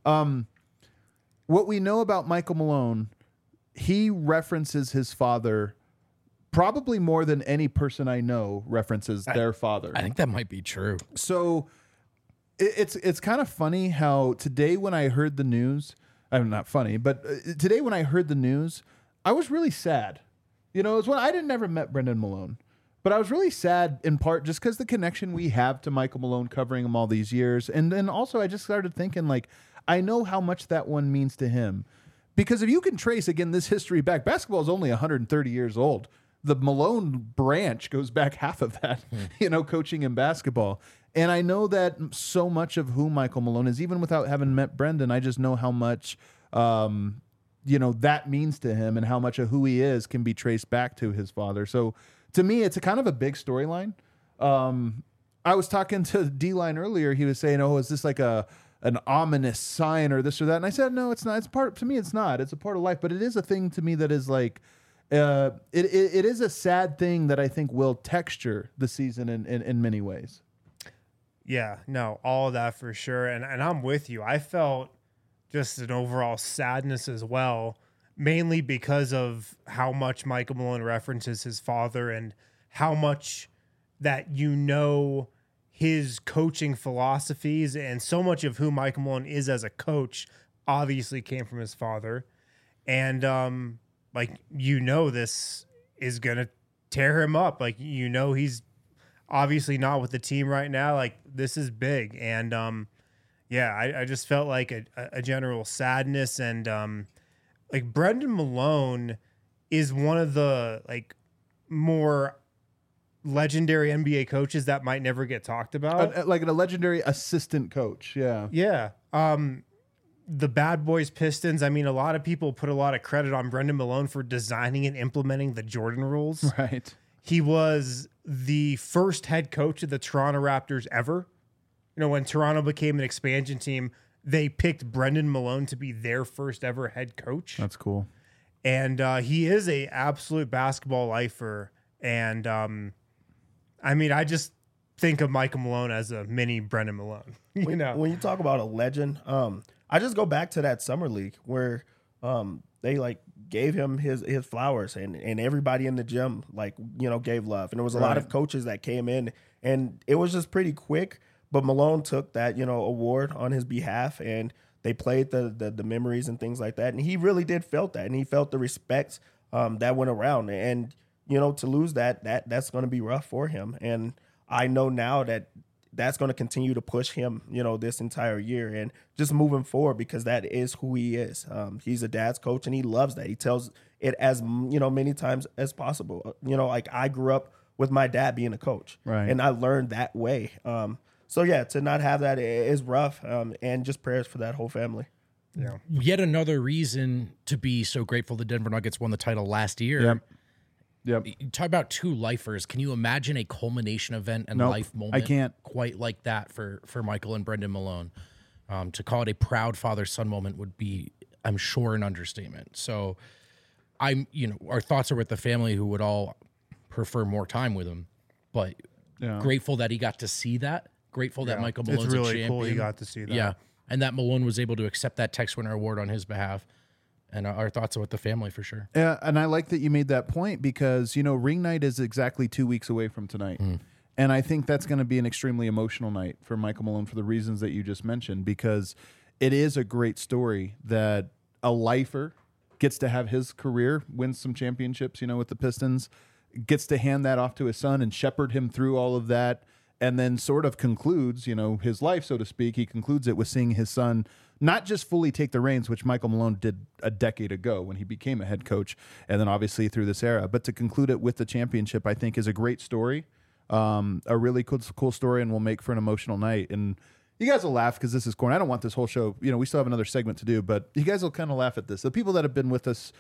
[SPEAKER 2] What we know about Michael Malone, he references his father probably more than any person I know references their father.
[SPEAKER 1] I think that might be true.
[SPEAKER 2] So it's kind of funny how today when I heard the news, I'm not funny, but today when I heard the news, I was really sad. It was when I never met Brendan Malone, but I was really sad in part just because the connection we have to Michael Malone, covering him all these years. And then also I just started thinking, like, I know how much that one means to him. Because if you can trace, again, this history back, basketball is only 130 years old. The Malone branch goes back half of that, coaching in basketball. And I know that so much of who Michael Malone is, even without having met Brendan, I just know how much, that means to him and how much of who he is can be traced back to his father. So to me, it's a kind of a big storyline. I was talking to D-Line earlier. He was saying, oh, is this like an ominous sign or this or that? And I said, no, it's not. To me, it's not. It's a part of life, but it is a thing to me that is like, it is a sad thing that I think will texture the season in many ways.
[SPEAKER 3] Yeah, no, all of that for sure. And I'm with you. I felt just an overall sadness as well, mainly because of how much Michael Malone references his father and how much that his coaching philosophies and so much of who Michael Malone is as a coach obviously came from his father. And this is going to tear him up. He's obviously not with the team right now. Like, this is big. And I just felt like a general sadness. And Brendan Malone is one of the more legendary NBA coaches that might never get talked about.
[SPEAKER 2] Like a legendary assistant coach. Yeah.
[SPEAKER 3] Yeah. The Bad Boys Pistons. I mean, a lot of people put a lot of credit on Brendan Malone for designing and implementing the Jordan rules.
[SPEAKER 2] Right.
[SPEAKER 3] He was the first head coach of the Toronto Raptors ever. When Toronto became an expansion team, they picked Brendan Malone to be their first ever head coach.
[SPEAKER 2] That's cool.
[SPEAKER 3] And he is a absolute basketball lifer. And I just think of Michael Malone as a mini Brendan Malone.
[SPEAKER 4] When you talk about a legend, I just go back to that summer league where they gave him his flowers and everybody in the gym gave love. And there was a lot of coaches that came in and it was just pretty quick. But Malone took that, award on his behalf and they played the memories and things like that. And he really did felt that. And he felt the respect that went around. And, to lose that's going to be rough for him. And I know now that's going to continue to push him, this entire year and just moving forward because that is who he is. He's a dad's coach and he loves that. He tells it as, many times as possible. I grew up with my dad being a coach and I learned that way. So yeah, to not have that is rough. And just prayers for that whole family.
[SPEAKER 3] Yeah.
[SPEAKER 1] Yet another reason to be so grateful the Denver Nuggets won the title last year.
[SPEAKER 2] Yep.
[SPEAKER 1] You talk about two lifers. Can you imagine a culmination event and life moment?
[SPEAKER 2] I can't.
[SPEAKER 1] Quite like that for Michael and Brendan Malone. To call it a proud father-son moment would be, I'm sure, an understatement. So our thoughts are with the family who would all prefer more time with him, but grateful that he got to see that. Grateful that Michael Malone's
[SPEAKER 3] it's really
[SPEAKER 1] a champion.
[SPEAKER 3] Cool he got to see that.
[SPEAKER 1] Yeah. And that Malone was able to accept that Tex Winner Award on his behalf. And our thoughts are with the family for sure.
[SPEAKER 2] Yeah, and I like that you made that point because, ring night is exactly 2 weeks away from tonight. And I think that's going to be an extremely emotional night for Michael Malone for the reasons that you just mentioned, because it is a great story that a lifer gets to have his career, wins some championships, with the Pistons, gets to hand that off to his son and shepherd him through all of that, and then sort of concludes, his life, so to speak. He concludes it with seeing his son not just fully take the reins, which Michael Malone did a decade ago when he became a head coach, and then obviously through this era, but to conclude it with the championship, I think is a great story, a really cool story, and will make for an emotional night. And you guys will laugh because this is corny. I don't want this whole show, we still have another segment to do, but you guys will kind of laugh at this. The people that have been with us,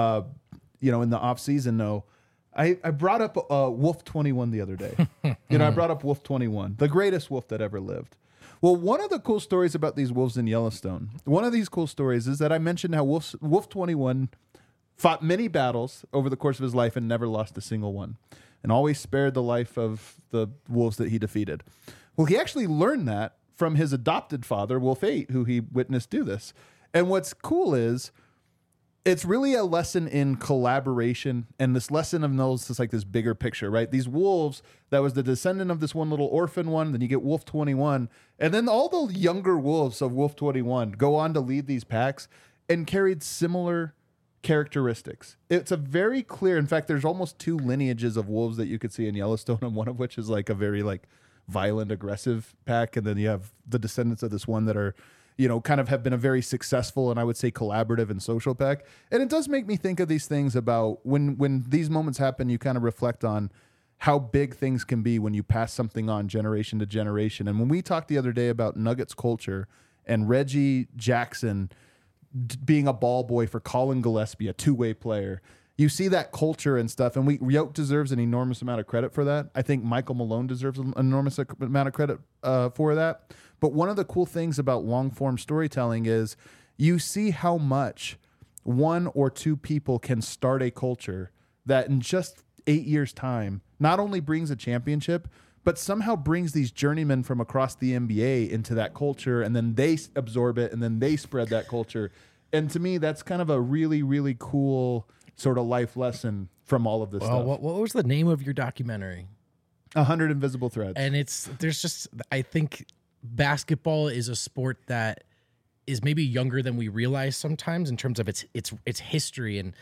[SPEAKER 2] in the off season know I brought up Wolf 21 the other day. I brought up Wolf 21, the greatest wolf that ever lived. Well, one of the cool stories about these wolves in Yellowstone, one of these cool stories is that I mentioned how Wolf 21 fought many battles over the course of his life and never lost a single one, and always spared the life of the wolves that he defeated. Well, he actually learned that from his adopted father, Wolf 8, who he witnessed do this. And what's cool is it's really a lesson in collaboration, and this lesson of those is like this bigger picture, right? These wolves, that was the descendant of this one little orphan one, then you get Wolf 21, and then all the younger wolves of Wolf 21 go on to lead these packs and carried similar characteristics. It's a very clear, in fact, there's almost two lineages of wolves that you could see in Yellowstone, and one of which is like a very violent, aggressive pack, and then you have the descendants of this one that are kind of have been a very successful and I would say collaborative and social pack. And it does make me think of these things about when these moments happen, you kind of reflect on how big things can be when you pass something on generation to generation. And when we talked the other day about Nuggets culture and Reggie Jackson being a ball boy for Colin Gillespie, a two-way player, you see that culture and stuff. And Yoke deserves an enormous amount of credit for that. I think Michael Malone deserves an enormous amount of credit for that. But one of the cool things about long-form storytelling is you see how much one or two people can start a culture that in just 8 years' time not only brings a championship, but somehow brings these journeymen from across the NBA into that culture, and then they absorb it, and then they spread that culture. And to me, that's kind of a really, really cool sort of life lesson from all of this stuff.
[SPEAKER 1] What was the name of your documentary?
[SPEAKER 2] 100 Invisible Threads.
[SPEAKER 1] And I think basketball is a sport that is maybe younger than we realize sometimes in terms of its history, and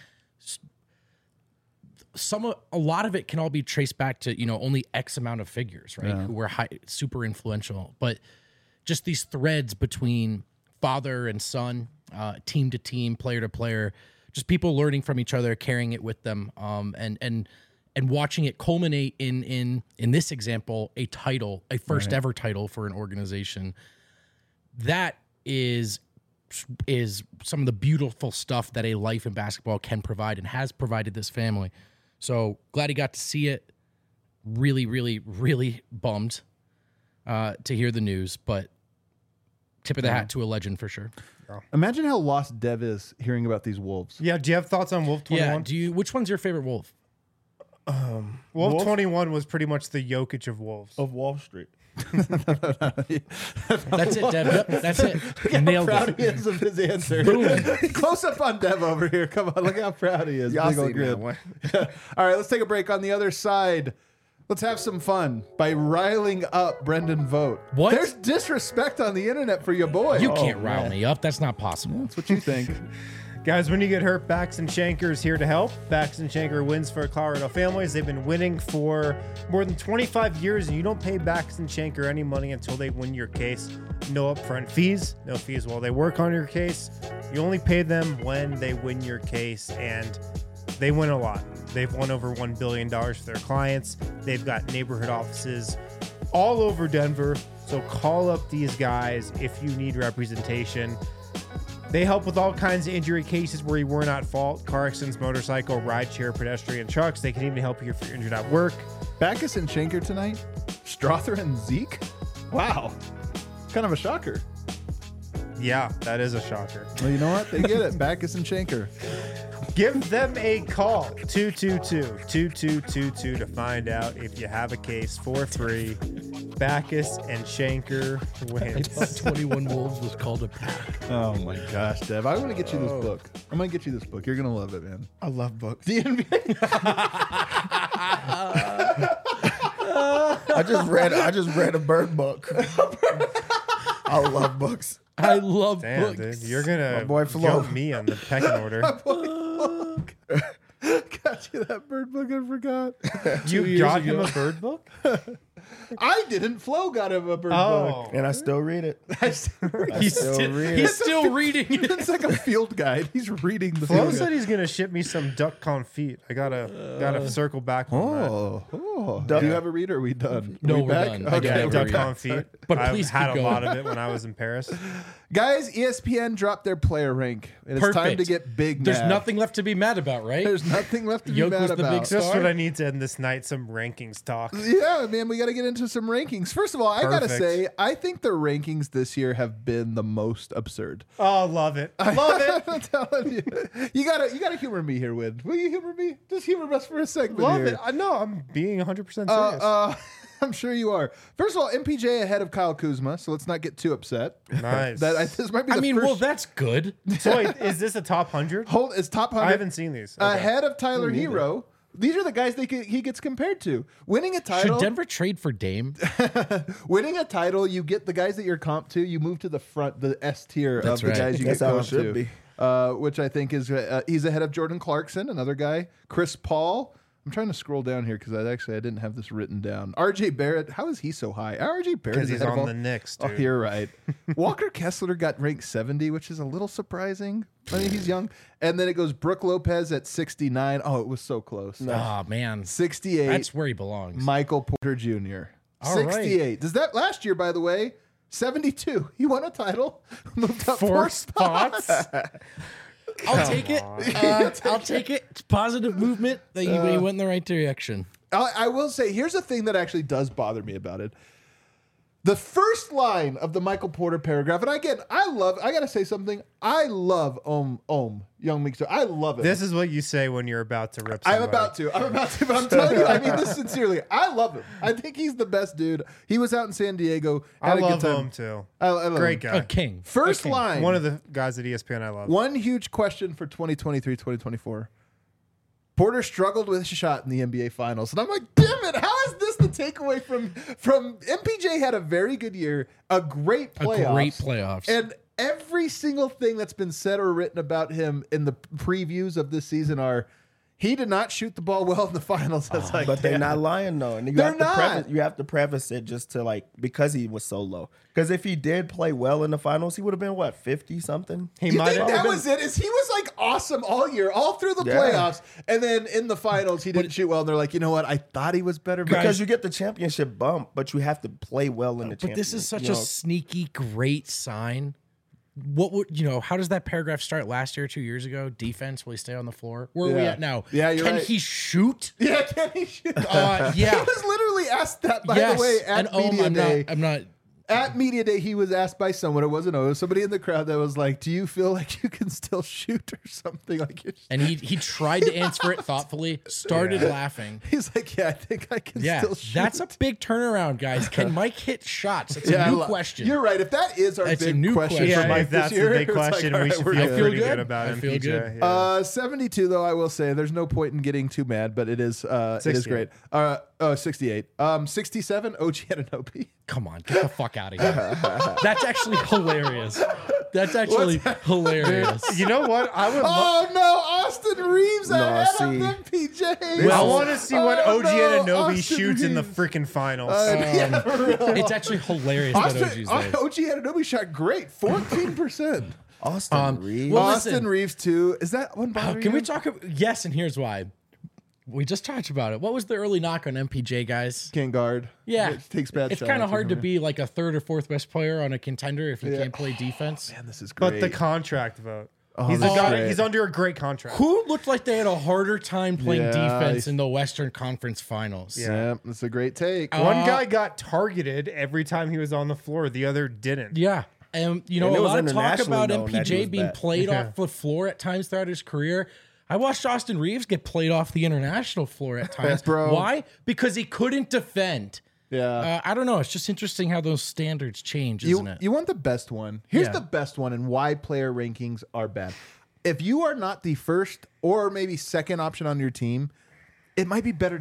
[SPEAKER 1] a lot of it can all be traced back to only X amount of figures, right? Who were super influential, but just these threads between father and son, team to team, player to player, just people learning from each other, carrying it with them, and watching it culminate in this example, a first ever title for an organization. That is some of the beautiful stuff that a life in basketball can provide and has provided this family. So glad he got to see it. Really, really, really bummed to hear the news, but tip of the hat to a legend for sure.
[SPEAKER 2] Imagine how lost Dev is hearing about these wolves.
[SPEAKER 3] Yeah, do you have thoughts on Wolf 21?
[SPEAKER 1] Yeah, which one's your favorite wolf?
[SPEAKER 3] Wolf 21 was pretty much the Jokic of wolves.
[SPEAKER 4] Of Wall Street.
[SPEAKER 1] That's it, Dev. Yep, that's it. You nailed
[SPEAKER 2] Proud
[SPEAKER 1] it.
[SPEAKER 2] he is of his answer. Close up on Dev over here. Come on, look how proud he is.
[SPEAKER 4] Y'all
[SPEAKER 2] Big old
[SPEAKER 4] see
[SPEAKER 2] grin.
[SPEAKER 4] that
[SPEAKER 2] All right, let's take a break. On the other side, let's have some fun by riling up Brendan Vogt.
[SPEAKER 1] What?
[SPEAKER 2] There's disrespect on the internet for your boy.
[SPEAKER 1] You can't rile me up. That's not possible.
[SPEAKER 2] That's what you think.
[SPEAKER 3] Guys, when you get hurt, Baxton Shanker is here to help. Baxton Shanker wins for Colorado families. They've been winning for more than 25 years, and you don't pay Baxton Shanker any money until they win your case. No upfront fees, no fees while they work on your case. You only pay them when they win your case, and they win a lot. They've won over $1 billion for their clients. They've got neighborhood offices all over Denver, so call up these guys if you need representation. They help with all kinds of injury cases where you were not at fault. Car accidents, motorcycle, rideshare, pedestrian, trucks. They can even help you if you're injured at work.
[SPEAKER 2] Backus and Shanker tonight? Strother and Zeke? Wow. Kind of a shocker.
[SPEAKER 3] Yeah, that is a shocker.
[SPEAKER 2] Well, you know what? They get it. Backus and Shanker.
[SPEAKER 3] Give them a call, 222-2222 to find out if you have a case for free. Backus and Shanker wins.
[SPEAKER 1] 21 Wolves was called a pack.
[SPEAKER 2] Oh my gosh, Dev. I want to get you this book. I'm going to get you this book. You're going to love it, man.
[SPEAKER 4] I love books.
[SPEAKER 2] The NBA.
[SPEAKER 4] I just read a bird book. I love books.
[SPEAKER 1] I love
[SPEAKER 3] Damn,
[SPEAKER 1] books.
[SPEAKER 3] dude, you're gonna
[SPEAKER 4] boy Flo.
[SPEAKER 3] jump me on the pecking order.
[SPEAKER 2] Got you that bird book. I forgot.
[SPEAKER 3] You got him a bird book?
[SPEAKER 2] I didn't. Flo got him a bird book.
[SPEAKER 3] Oh,
[SPEAKER 4] And I still read it.
[SPEAKER 1] He's
[SPEAKER 4] still
[SPEAKER 1] still,
[SPEAKER 4] read
[SPEAKER 1] he's
[SPEAKER 4] it.
[SPEAKER 1] still reading it.
[SPEAKER 2] It's like a field guide. He's reading the
[SPEAKER 3] Flo
[SPEAKER 2] field
[SPEAKER 3] said
[SPEAKER 2] guide.
[SPEAKER 3] he's gonna ship me some duck confit. I gotta circle back on
[SPEAKER 2] Do you have a read or are we done?
[SPEAKER 1] No,
[SPEAKER 2] Are we
[SPEAKER 1] we're
[SPEAKER 2] back?
[SPEAKER 1] done.
[SPEAKER 3] that.
[SPEAKER 1] Okay,
[SPEAKER 3] Yeah,
[SPEAKER 1] we're
[SPEAKER 3] duck
[SPEAKER 1] back.
[SPEAKER 3] confit.
[SPEAKER 1] But
[SPEAKER 3] I've
[SPEAKER 1] please
[SPEAKER 3] had
[SPEAKER 1] keep
[SPEAKER 3] a lot
[SPEAKER 1] going.
[SPEAKER 3] of it when I was in Paris.
[SPEAKER 2] Guys, ESPN dropped their player rank. And it's time
[SPEAKER 1] Perfect.
[SPEAKER 2] to get big
[SPEAKER 1] There's
[SPEAKER 2] mad.
[SPEAKER 1] nothing left to be mad about, right?
[SPEAKER 2] There's nothing left to be
[SPEAKER 1] Yoke
[SPEAKER 2] mad
[SPEAKER 1] was the big
[SPEAKER 2] about.
[SPEAKER 1] star.
[SPEAKER 3] Just what I need to end this night. Some rankings talk.
[SPEAKER 2] Yeah, man, we got to get into some rankings. First of all, I got to
[SPEAKER 3] Perfect.
[SPEAKER 2] say, I think the rankings this year have been the most absurd.
[SPEAKER 3] Oh, love it, love it,
[SPEAKER 2] I'm telling you. You gotta humor me here, Win. Will you humor me? Just humor us for a segment
[SPEAKER 3] love
[SPEAKER 2] here.
[SPEAKER 3] it. I know I'm being 100% serious.
[SPEAKER 2] I'm sure you are. First of all, MPJ ahead of Kyle Kuzma, so let's not get too upset.
[SPEAKER 3] Nice.
[SPEAKER 2] This might be
[SPEAKER 1] I
[SPEAKER 2] the
[SPEAKER 1] mean,
[SPEAKER 2] first.
[SPEAKER 1] well, that's good.
[SPEAKER 3] So wait, is this a top 100?
[SPEAKER 2] Hold, it's top 100.
[SPEAKER 3] I haven't seen these. Okay.
[SPEAKER 2] Ahead of Tyler Hero. These are the guys he gets compared to. Winning a title.
[SPEAKER 1] Should Denver trade for Dame?
[SPEAKER 2] Winning a title, you get the guys that you're comp to. You move to the front, the S tier
[SPEAKER 1] That's
[SPEAKER 2] of the
[SPEAKER 1] right.
[SPEAKER 2] guys you
[SPEAKER 4] That's
[SPEAKER 2] get
[SPEAKER 4] how it
[SPEAKER 2] comp
[SPEAKER 4] should
[SPEAKER 2] to.
[SPEAKER 4] be.
[SPEAKER 2] Which I think is he's ahead of Jordan Clarkson, another guy. Chris Paul. I'm trying to scroll down here because I didn't have this written down. RJ Barrett. How is he so high? RJ Barrett
[SPEAKER 3] Because
[SPEAKER 2] is
[SPEAKER 3] he's
[SPEAKER 2] ahead of
[SPEAKER 3] on
[SPEAKER 2] all-
[SPEAKER 3] the Knicks,
[SPEAKER 2] Oh,
[SPEAKER 3] dude.
[SPEAKER 2] you're right. Walker Kessler got ranked 70, which is a little surprising. I mean, he's young. And then it goes Brooke Lopez at 69. Oh, it was so close.
[SPEAKER 1] Oh man,
[SPEAKER 2] 68.
[SPEAKER 1] that's where he belongs.
[SPEAKER 2] Michael Porter Jr.
[SPEAKER 1] All right.
[SPEAKER 2] 68. Does that last year, by the way? 72. He won a title. Moved up
[SPEAKER 1] 4 spots. I'll take it. I'll take it. It's positive movement. That he went in the right direction.
[SPEAKER 2] I will say, here's a thing that actually does bother me about it. The first line of the Michael Porter paragraph, and again, I gotta say something. I love Young Meek. I love it.
[SPEAKER 3] This is what you say when you're about to rip
[SPEAKER 2] I'm
[SPEAKER 3] somebody.
[SPEAKER 2] about to, but I'm telling you, I mean this sincerely. I love him. I think he's the best dude. He was out in San Diego.
[SPEAKER 3] I
[SPEAKER 2] Had a
[SPEAKER 3] love
[SPEAKER 2] good time.
[SPEAKER 3] him too.
[SPEAKER 2] I love
[SPEAKER 3] Great
[SPEAKER 2] him.
[SPEAKER 3] guy.
[SPEAKER 1] A king.
[SPEAKER 2] First
[SPEAKER 1] A king.
[SPEAKER 2] line.
[SPEAKER 3] One of the guys at ESPN I love.
[SPEAKER 2] One huge question for 2023, 2024. Porter struggled with his shot in the NBA Finals. And I'm like, damn it, how is this the takeaway from MPJ had a very good year, a great playoffs.
[SPEAKER 1] A great playoffs.
[SPEAKER 2] And every single thing that's been said or written about him in the previews of this season are he did not shoot the ball well in the finals. That's like,
[SPEAKER 4] But they're
[SPEAKER 2] damn.
[SPEAKER 4] not lying though, and you
[SPEAKER 2] They're
[SPEAKER 4] have to
[SPEAKER 2] not.
[SPEAKER 4] preface it just to like because he was so low. Because if he did play well in the finals, he would have been what 50 something.
[SPEAKER 3] He
[SPEAKER 2] You
[SPEAKER 3] might
[SPEAKER 2] think
[SPEAKER 3] have
[SPEAKER 2] that
[SPEAKER 3] been-
[SPEAKER 2] was it? Is he was like awesome all year, all through the
[SPEAKER 4] Yeah.
[SPEAKER 2] playoffs, and then in the finals he didn't shoot well. And they're like, you know what? I thought he was better, but
[SPEAKER 4] Because you get the championship bump, but you have to play well in the
[SPEAKER 1] But
[SPEAKER 4] championship.
[SPEAKER 1] this is such a sneaky, great sign. What would how does that paragraph start last year, 2 years ago? Defense, will he stay on the floor? Where are we
[SPEAKER 2] Yeah.
[SPEAKER 1] at now?
[SPEAKER 2] Yeah, you're
[SPEAKER 1] Can
[SPEAKER 2] right.
[SPEAKER 1] he shoot?
[SPEAKER 2] yeah, can he shoot? He
[SPEAKER 1] Yeah.
[SPEAKER 2] was literally asked that by
[SPEAKER 1] yes.
[SPEAKER 2] the way at
[SPEAKER 1] and
[SPEAKER 2] media day.
[SPEAKER 1] I'm not.
[SPEAKER 2] At media day, he was asked by someone. It wasn't somebody in the crowd that was like, "Do you feel like you can still shoot or something?" Like,
[SPEAKER 1] And he tried to answer it thoughtfully. Started laughing.
[SPEAKER 2] he's like, "Yeah, I think I can
[SPEAKER 1] Yeah,
[SPEAKER 2] still shoot."
[SPEAKER 1] that's a big turnaround, guys. Can Mike hit shots? It's
[SPEAKER 2] Yeah,
[SPEAKER 1] a new question.
[SPEAKER 2] You're right. If that is our
[SPEAKER 1] That's a
[SPEAKER 2] big
[SPEAKER 1] new
[SPEAKER 2] question,
[SPEAKER 1] question.
[SPEAKER 2] for
[SPEAKER 3] Yeah,
[SPEAKER 2] Mike
[SPEAKER 3] if that's
[SPEAKER 2] this year,
[SPEAKER 3] the big
[SPEAKER 2] it's like,
[SPEAKER 3] question,
[SPEAKER 2] all
[SPEAKER 3] we
[SPEAKER 2] right,
[SPEAKER 3] should
[SPEAKER 2] we're
[SPEAKER 3] feel
[SPEAKER 2] good.
[SPEAKER 3] pretty
[SPEAKER 1] good.
[SPEAKER 3] good about
[SPEAKER 1] I feel
[SPEAKER 3] MPJ.
[SPEAKER 1] good.
[SPEAKER 3] Yeah.
[SPEAKER 2] 72 though, I will say there's no point in getting too mad, but it is
[SPEAKER 3] 68.
[SPEAKER 2] great. 68. 67 OG Anunoby.
[SPEAKER 1] Come on, get the fuck out of here. That's actually hilarious. That's actually hilarious.
[SPEAKER 3] You know what? I would love.
[SPEAKER 2] Oh no, Austin Reeves ahead
[SPEAKER 4] see.
[SPEAKER 2] of MPJ.
[SPEAKER 3] I want to see what
[SPEAKER 2] Oh,
[SPEAKER 3] OG
[SPEAKER 2] no,
[SPEAKER 3] Anunoby
[SPEAKER 2] Austin
[SPEAKER 3] shoots in the
[SPEAKER 2] Reeves.
[SPEAKER 3] freaking finals.
[SPEAKER 2] Yeah, for real.
[SPEAKER 1] It's actually hilarious that OG's there.
[SPEAKER 2] OG Anunoby shot great, 14%.
[SPEAKER 4] Austin Reeves.
[SPEAKER 1] well,
[SPEAKER 2] Austin
[SPEAKER 1] listen.
[SPEAKER 2] Reeves too. Is that one bothering
[SPEAKER 1] Can we
[SPEAKER 2] you?
[SPEAKER 1] talk? Yes, and here's why. We just talked about it. What was the early knock on MPJ, guys?
[SPEAKER 2] Can't guard.
[SPEAKER 1] Yeah,
[SPEAKER 2] It takes bad
[SPEAKER 1] It's
[SPEAKER 2] shots
[SPEAKER 1] kind
[SPEAKER 2] or
[SPEAKER 1] of hard to
[SPEAKER 2] something.
[SPEAKER 1] be like a third or fourth best player on a contender if you
[SPEAKER 2] Yeah.
[SPEAKER 1] can't play defense.
[SPEAKER 2] Man, this is great.
[SPEAKER 3] But the contract vote.
[SPEAKER 2] Oh,
[SPEAKER 3] He's,
[SPEAKER 2] this
[SPEAKER 3] a
[SPEAKER 2] is
[SPEAKER 3] guy,
[SPEAKER 2] great.
[SPEAKER 3] he's under a great contract.
[SPEAKER 1] Who looked like they had a harder time playing
[SPEAKER 2] Yeah,
[SPEAKER 1] defense in the Western Conference Finals?
[SPEAKER 2] Yeah, that's a great take.
[SPEAKER 3] One guy got targeted every time he was on the floor. The other didn't.
[SPEAKER 1] Yeah. And,
[SPEAKER 4] And
[SPEAKER 1] a
[SPEAKER 4] it was
[SPEAKER 1] lot of talk
[SPEAKER 4] internationally
[SPEAKER 1] about
[SPEAKER 4] known that he
[SPEAKER 1] MPJ
[SPEAKER 4] was
[SPEAKER 1] being
[SPEAKER 4] bad.
[SPEAKER 1] played off the floor at times throughout his career. I watched Austin Reeves get played off the international floor at times.
[SPEAKER 2] Bro.
[SPEAKER 1] Why? Because he couldn't defend.
[SPEAKER 2] Yeah.
[SPEAKER 1] I don't know. It's just interesting how those standards change, isn't it?
[SPEAKER 2] You want the best one. Here's
[SPEAKER 1] Yeah.
[SPEAKER 2] the best one and why player rankings are bad. If you are not the first or maybe second option on your team, it might be better to be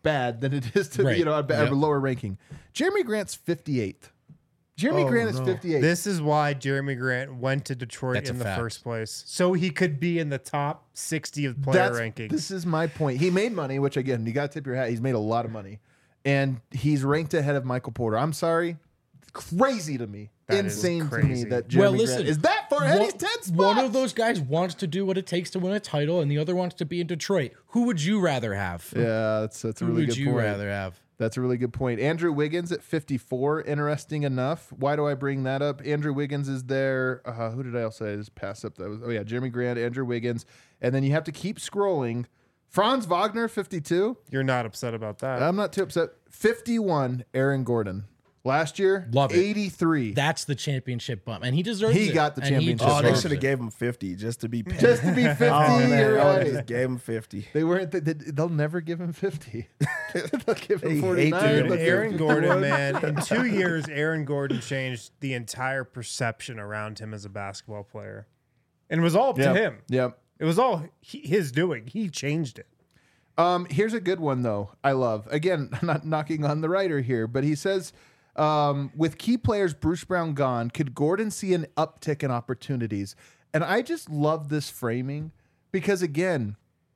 [SPEAKER 2] bad than it is to
[SPEAKER 1] Right.
[SPEAKER 2] a lower ranking. Jeremy Grant's 58th. Jeremy Grant is 58.
[SPEAKER 3] This is why Jeremy Grant went to Detroit
[SPEAKER 1] That's a
[SPEAKER 3] in the
[SPEAKER 1] fact.
[SPEAKER 3] first place, so he could be in the top 60 of player rankings.
[SPEAKER 2] This is my point. He made money, which again, you got to tip your hat. He's made a lot of money, and he's ranked ahead of Michael Porter. I'm sorry, crazy to me,
[SPEAKER 3] That is
[SPEAKER 2] insane to me
[SPEAKER 3] crazy.
[SPEAKER 2] that Jeremy
[SPEAKER 1] listen,
[SPEAKER 2] Grant is that far ahead. He's 10 spots.
[SPEAKER 1] One of those guys wants to do what it takes to win a title, and the other wants to be in Detroit. Who would you rather have?
[SPEAKER 2] Yeah, that's a
[SPEAKER 1] Who
[SPEAKER 2] really
[SPEAKER 1] would
[SPEAKER 2] good
[SPEAKER 1] you
[SPEAKER 2] point.
[SPEAKER 1] rather have?
[SPEAKER 2] That's a really good point. Andrew Wiggins at 54. Interesting enough. Why do I bring that up? Andrew Wiggins is there. Who did I also just pass up? That was Jeremy Grant, Andrew Wiggins, and then you have to keep scrolling. Franz Wagner, 52.
[SPEAKER 3] You're not upset about that.
[SPEAKER 2] I'm not too upset. 51. Aaron Gordon. Last year,
[SPEAKER 1] Love it.
[SPEAKER 2] 83.
[SPEAKER 1] That's the championship bump, and he deserves it.
[SPEAKER 2] He got the
[SPEAKER 1] And he
[SPEAKER 2] championship.
[SPEAKER 4] Oh, they
[SPEAKER 1] deserves
[SPEAKER 4] should have
[SPEAKER 1] it.
[SPEAKER 4] gave him 50 just to be petty.
[SPEAKER 2] Just to be 50.
[SPEAKER 4] Oh, man,
[SPEAKER 2] You're
[SPEAKER 4] I would've
[SPEAKER 2] right.
[SPEAKER 4] just gave him 50.
[SPEAKER 2] They weren't. They'll never give him 50. They'll give
[SPEAKER 4] They
[SPEAKER 2] him
[SPEAKER 4] hate
[SPEAKER 2] 49.
[SPEAKER 4] to
[SPEAKER 2] they'll
[SPEAKER 4] do
[SPEAKER 2] give
[SPEAKER 4] it.
[SPEAKER 3] Aaron
[SPEAKER 2] him
[SPEAKER 3] Gordon,
[SPEAKER 2] 51.
[SPEAKER 3] man, in 2 years, Aaron Gordon changed the entire perception around him as a basketball player, and it was all up to him.
[SPEAKER 2] Yep.
[SPEAKER 3] It was all his doing. He changed it.
[SPEAKER 2] Here's a good one though. I love. Again, I'm not knocking on the writer here, but he says, with key players Bruce Brown gone, could Gordon see an uptick in opportunities? And I just love this framing because again,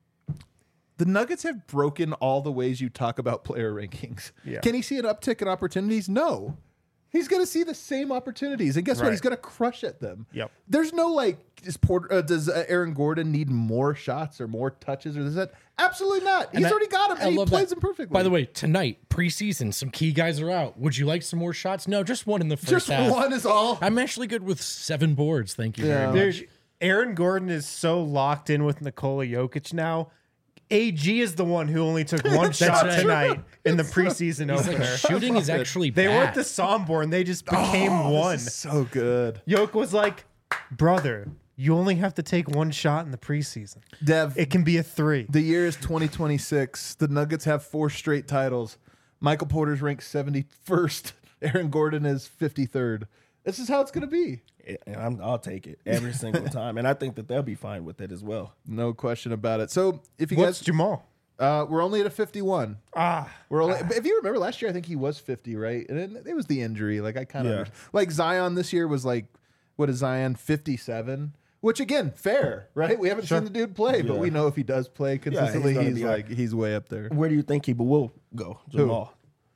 [SPEAKER 2] the Nuggets have broken all the ways you talk about player rankings.
[SPEAKER 3] Yeah.
[SPEAKER 2] Can he see an uptick in opportunities? No. He's going to see the same opportunities, and guess what?
[SPEAKER 3] Right.
[SPEAKER 2] He's going to crush at them.
[SPEAKER 3] Yep.
[SPEAKER 2] There's no like, does Aaron Gordon need more shots or more touches or does that? Absolutely not. He's already got him, and he plays them perfectly.
[SPEAKER 1] By the way, tonight preseason, some key guys are out. Would you like some more shots? No, just one in the first
[SPEAKER 2] just
[SPEAKER 1] half.
[SPEAKER 2] one is all.
[SPEAKER 1] I'm actually good with 7 boards. Thank you very much.
[SPEAKER 3] There's Aaron Gordon is so locked in with Nikola Jokic now. AG is the one who only took one shot
[SPEAKER 1] right.
[SPEAKER 3] tonight in the preseason opener.
[SPEAKER 1] Shooting is actually
[SPEAKER 3] They
[SPEAKER 1] bad.
[SPEAKER 3] were at the Sombor they just became one.
[SPEAKER 2] This is so good.
[SPEAKER 3] Jokic was like, brother, you only have to take one shot in the preseason.
[SPEAKER 2] Dev,
[SPEAKER 3] It can be a 3.
[SPEAKER 2] the year is 2026. The Nuggets have 4 straight titles. Michael Porter's ranked 71st. Aaron Gordon is 53rd. This is how it's going to be.
[SPEAKER 4] And I'll take it every single time. And I think that they'll be fine with it as well.
[SPEAKER 2] No question about it. So if you
[SPEAKER 3] What's
[SPEAKER 2] guys,
[SPEAKER 3] Jamal?
[SPEAKER 2] we're only at a 51.
[SPEAKER 3] Ah,
[SPEAKER 2] We're only, if you remember last year, I think he was 50, right? And it was the injury. Like I kind of
[SPEAKER 4] Yeah.
[SPEAKER 2] like Zion this year was like, what is Zion 57? Which again, fair, right? We haven't seen the dude play, but
[SPEAKER 4] Yeah.
[SPEAKER 2] we know if he does play consistently,
[SPEAKER 4] gonna
[SPEAKER 2] he's
[SPEAKER 4] be
[SPEAKER 2] like he's way up there.
[SPEAKER 4] Where do you think he will go, Jamal?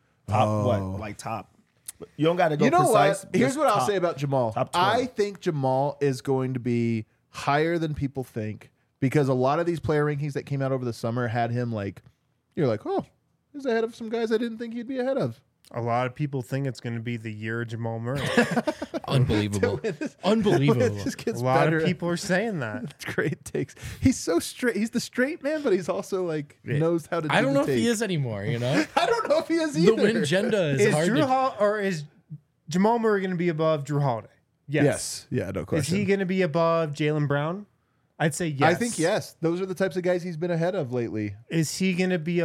[SPEAKER 4] Top what? Like top. You don't got to go
[SPEAKER 2] You know
[SPEAKER 4] precise.
[SPEAKER 2] what? Here's
[SPEAKER 4] just
[SPEAKER 2] what I'll
[SPEAKER 4] top.
[SPEAKER 2] say about Jamal.
[SPEAKER 4] top 20.
[SPEAKER 2] I think Jamal is going to be higher than people think because a lot of these player rankings that came out over the summer had him like, you're like, oh, he's ahead of some guys I didn't think he'd be ahead of.
[SPEAKER 3] a lot of people think it's going to be the year of Jamal Murray.
[SPEAKER 1] Unbelievable.
[SPEAKER 2] It
[SPEAKER 1] Unbelievable.
[SPEAKER 2] just
[SPEAKER 3] A
[SPEAKER 2] gets
[SPEAKER 3] lot
[SPEAKER 2] better.
[SPEAKER 3] of people are saying that.
[SPEAKER 2] It's great takes. He's so straight. He's the straight man, but he's also like knows how to.
[SPEAKER 1] I
[SPEAKER 2] do
[SPEAKER 1] don't
[SPEAKER 2] the
[SPEAKER 1] know if he
[SPEAKER 2] take.
[SPEAKER 1] is anymore, you know?
[SPEAKER 2] I don't know if he is
[SPEAKER 1] The
[SPEAKER 2] either.
[SPEAKER 1] win agenda is,
[SPEAKER 3] Is
[SPEAKER 1] hard
[SPEAKER 3] Drew
[SPEAKER 1] to...
[SPEAKER 3] or is Jamal Murray going to be above Drew Holiday?
[SPEAKER 2] Yes. Yeah. No
[SPEAKER 3] Is
[SPEAKER 2] question.
[SPEAKER 3] he going to be above Jaylen Brown? I'd say yes.
[SPEAKER 2] I think yes. Those are the types of guys he's been ahead of lately.
[SPEAKER 3] Is he going to be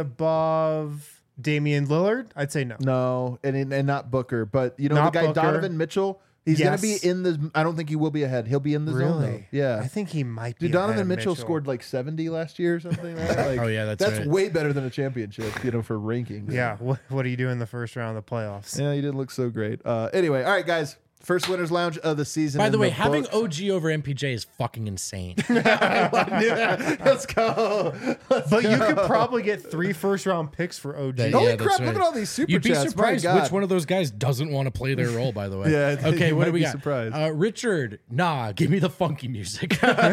[SPEAKER 3] above Damian Lillard? I'd say no.
[SPEAKER 2] No, and not Booker, but you know
[SPEAKER 3] Not
[SPEAKER 2] the guy
[SPEAKER 3] Booker.
[SPEAKER 2] Donovan Mitchell. He's
[SPEAKER 3] Yes.
[SPEAKER 2] going to be in the. I don't think he will be ahead. He'll be in the zone. Though.
[SPEAKER 3] Really?
[SPEAKER 2] Yeah.
[SPEAKER 3] I think he might be.
[SPEAKER 2] Dude,
[SPEAKER 3] ahead
[SPEAKER 2] Donovan
[SPEAKER 3] of
[SPEAKER 2] Mitchell scored like 70 last year or something. Right? Like,
[SPEAKER 1] Oh, yeah, that's right.
[SPEAKER 2] way better than a championship. For rankings.
[SPEAKER 3] Yeah. What do you do in the first round of the playoffs?
[SPEAKER 2] Yeah, you didn't look so great. Anyway, all right, guys. First winners lounge of the season.
[SPEAKER 1] By
[SPEAKER 2] in
[SPEAKER 1] the way, having
[SPEAKER 2] books.
[SPEAKER 1] OG over MPJ is fucking insane.
[SPEAKER 2] Let's go.
[SPEAKER 3] But you could probably get 3 first-round picks for OG.
[SPEAKER 1] That-
[SPEAKER 2] Holy
[SPEAKER 1] Yeah, that's
[SPEAKER 2] crap!
[SPEAKER 1] right.
[SPEAKER 2] Look at all these super
[SPEAKER 1] You'd be
[SPEAKER 2] chats. My
[SPEAKER 1] surprised
[SPEAKER 2] God.
[SPEAKER 1] which one of those guys doesn't want to play their role, by the way.
[SPEAKER 2] Yeah,
[SPEAKER 1] Okay,
[SPEAKER 2] you
[SPEAKER 1] what
[SPEAKER 2] might
[SPEAKER 1] do we
[SPEAKER 2] be
[SPEAKER 1] got?
[SPEAKER 2] surprised.
[SPEAKER 1] Richard, give me the funky music.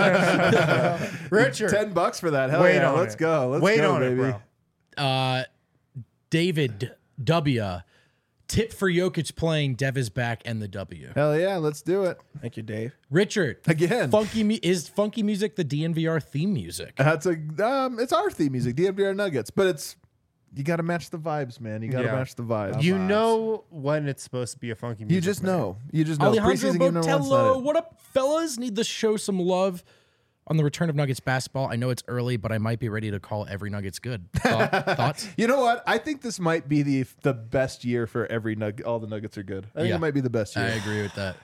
[SPEAKER 3] Richard,
[SPEAKER 2] $10 for that. Hell
[SPEAKER 3] wait
[SPEAKER 2] yeah!
[SPEAKER 3] on
[SPEAKER 2] Let's
[SPEAKER 3] it.
[SPEAKER 2] go. Let's
[SPEAKER 3] Wait
[SPEAKER 2] go,
[SPEAKER 3] on
[SPEAKER 2] baby.
[SPEAKER 3] it, bro.
[SPEAKER 1] David W. Tip for Jokic playing Dev is back and the W.
[SPEAKER 2] Hell yeah! Let's do it
[SPEAKER 4] Thank you, Dave.
[SPEAKER 1] Richard,
[SPEAKER 2] again.
[SPEAKER 1] is funky music the DNVR theme music?
[SPEAKER 2] That's it's our theme music, DNVR Nuggets, but it's you got to match the vibes, man. You got to
[SPEAKER 3] Yeah.
[SPEAKER 2] match the vibes.
[SPEAKER 3] You know when it's supposed to be a funky music.
[SPEAKER 2] You just
[SPEAKER 3] man.
[SPEAKER 2] know. You just know.
[SPEAKER 1] Alejandro
[SPEAKER 2] Preseason game number one's not
[SPEAKER 1] Botello,
[SPEAKER 2] it.
[SPEAKER 1] what up, fellas? Need to show some love on the return of Nuggets basketball. I know it's early, but I might be ready to call every Nuggets good. Thoughts?
[SPEAKER 2] You know what? I think this might be the best year for every Nugget. All the Nuggets are good. I think
[SPEAKER 1] Yeah.
[SPEAKER 2] it might be the best
[SPEAKER 1] I
[SPEAKER 2] year.
[SPEAKER 1] agree with that.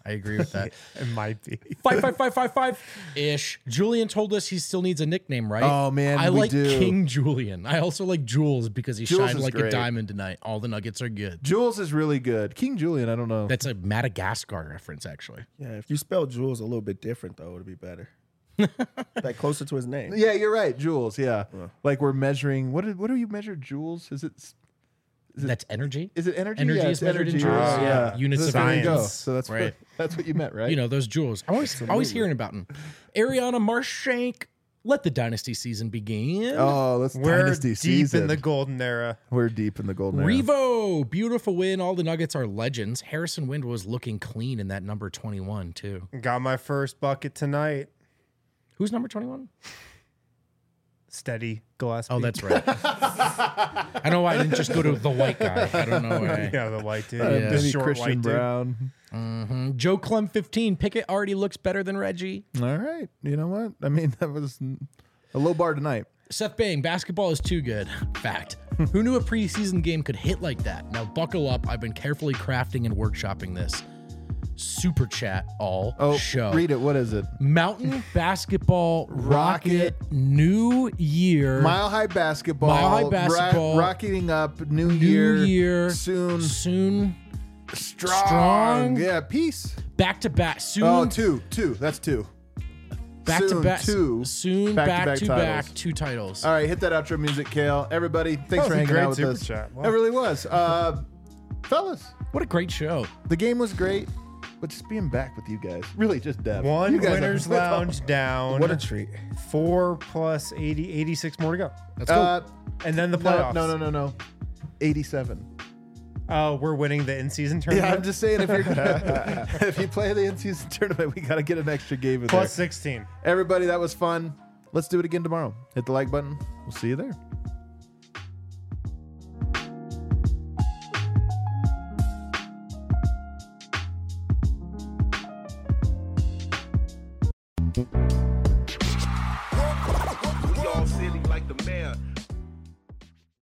[SPEAKER 1] I agree with that.
[SPEAKER 3] It might be.
[SPEAKER 1] 55555-ish. Julian told us he still needs a nickname, right?
[SPEAKER 2] Oh, man,
[SPEAKER 1] I
[SPEAKER 2] we
[SPEAKER 1] like
[SPEAKER 2] do.
[SPEAKER 1] King Julian. I also like Jules because he
[SPEAKER 2] Jules
[SPEAKER 1] shined
[SPEAKER 2] is
[SPEAKER 1] like a
[SPEAKER 2] great.
[SPEAKER 1] diamond tonight. All the Nuggets are good.
[SPEAKER 2] Jules is really good. King Julian, I don't know.
[SPEAKER 1] That's a Madagascar reference, actually.
[SPEAKER 4] Yeah, if you spell Jules a little bit different though, it'd be better. Like closer to his name.
[SPEAKER 2] Yeah, you're right. Jules. Yeah, like we're measuring. What do you measure? Joules?
[SPEAKER 1] That's energy.
[SPEAKER 2] Is it energy?
[SPEAKER 1] Energy
[SPEAKER 2] Yeah,
[SPEAKER 1] is
[SPEAKER 2] it's
[SPEAKER 1] measured in
[SPEAKER 2] energy.
[SPEAKER 1] joules. Yeah. Units
[SPEAKER 2] So
[SPEAKER 1] of
[SPEAKER 2] there you go.
[SPEAKER 1] science.
[SPEAKER 2] So that's
[SPEAKER 1] Right.
[SPEAKER 2] that's what you meant, right?
[SPEAKER 1] You know, those jewels. I'm always hearing about them. Ariana Marshank, let the dynasty season begin.
[SPEAKER 2] Oh, that's
[SPEAKER 3] We're
[SPEAKER 2] dynasty
[SPEAKER 3] deep
[SPEAKER 2] season.
[SPEAKER 3] in the golden era.
[SPEAKER 2] We're deep in the golden era.
[SPEAKER 1] Revo, beautiful win. All the Nuggets are legends. Harrison Wind was looking clean in that number 21, too.
[SPEAKER 3] Got my first bucket tonight.
[SPEAKER 1] Who's number 21?
[SPEAKER 3] Steady Gillespie.
[SPEAKER 1] Oh, that's right. I don't know why I didn't just go to the white guy. I don't know why.
[SPEAKER 3] yeah, the white dude.
[SPEAKER 1] Yeah.
[SPEAKER 3] The
[SPEAKER 2] Maybe
[SPEAKER 3] short
[SPEAKER 2] Christian
[SPEAKER 3] white dude.
[SPEAKER 2] Brown.
[SPEAKER 1] Joe Clem 15. Pickett already looks better than Reggie.
[SPEAKER 2] All right. You know what? I mean, that was a low bar tonight.
[SPEAKER 1] Seth Bang, basketball is too good. Fact. Who knew a preseason game could hit like that? Now buckle up. I've been carefully crafting and workshopping this. Super chat all show.
[SPEAKER 2] Read it. What is it?
[SPEAKER 1] Mountain Basketball Rocket New Year.
[SPEAKER 2] Mile High Basketball.
[SPEAKER 1] Mile High Basketball.
[SPEAKER 2] Rocketing up. New
[SPEAKER 1] Year.
[SPEAKER 2] Year. Soon.
[SPEAKER 1] Strong.
[SPEAKER 2] Yeah. Peace.
[SPEAKER 1] Back to back. Soon.
[SPEAKER 2] Oh, two. That's two.
[SPEAKER 1] back
[SPEAKER 2] soon,
[SPEAKER 1] to back.
[SPEAKER 2] two
[SPEAKER 1] Soon
[SPEAKER 2] back-to-back
[SPEAKER 1] back to back.
[SPEAKER 2] titles.
[SPEAKER 1] 2 titles.
[SPEAKER 2] All right, hit that outro music, Kale. Everybody, thanks
[SPEAKER 3] That
[SPEAKER 2] for
[SPEAKER 3] was a
[SPEAKER 2] hanging
[SPEAKER 3] great
[SPEAKER 2] out with
[SPEAKER 3] super
[SPEAKER 2] us.
[SPEAKER 3] chat. Wow.
[SPEAKER 2] It really was. Fellas,
[SPEAKER 1] What a great show.
[SPEAKER 2] the game was great, but just being back with you guys, really just Dev.
[SPEAKER 3] One
[SPEAKER 2] You guys
[SPEAKER 3] winner's
[SPEAKER 2] are-
[SPEAKER 3] lounge down.
[SPEAKER 4] What a treat.
[SPEAKER 3] 4 plus 80, 86 more to go.
[SPEAKER 1] Let's go.
[SPEAKER 3] And then the playoffs.
[SPEAKER 2] No. 87.
[SPEAKER 3] We're winning the in-season
[SPEAKER 2] Yeah,
[SPEAKER 3] tournament.
[SPEAKER 2] I'm just saying if you're if you play the in-season tournament, we got to get an extra game in
[SPEAKER 3] plus
[SPEAKER 2] there.
[SPEAKER 3] 16.
[SPEAKER 2] Everybody, that was fun. Let's do it again tomorrow. Hit the like button. We'll see you there.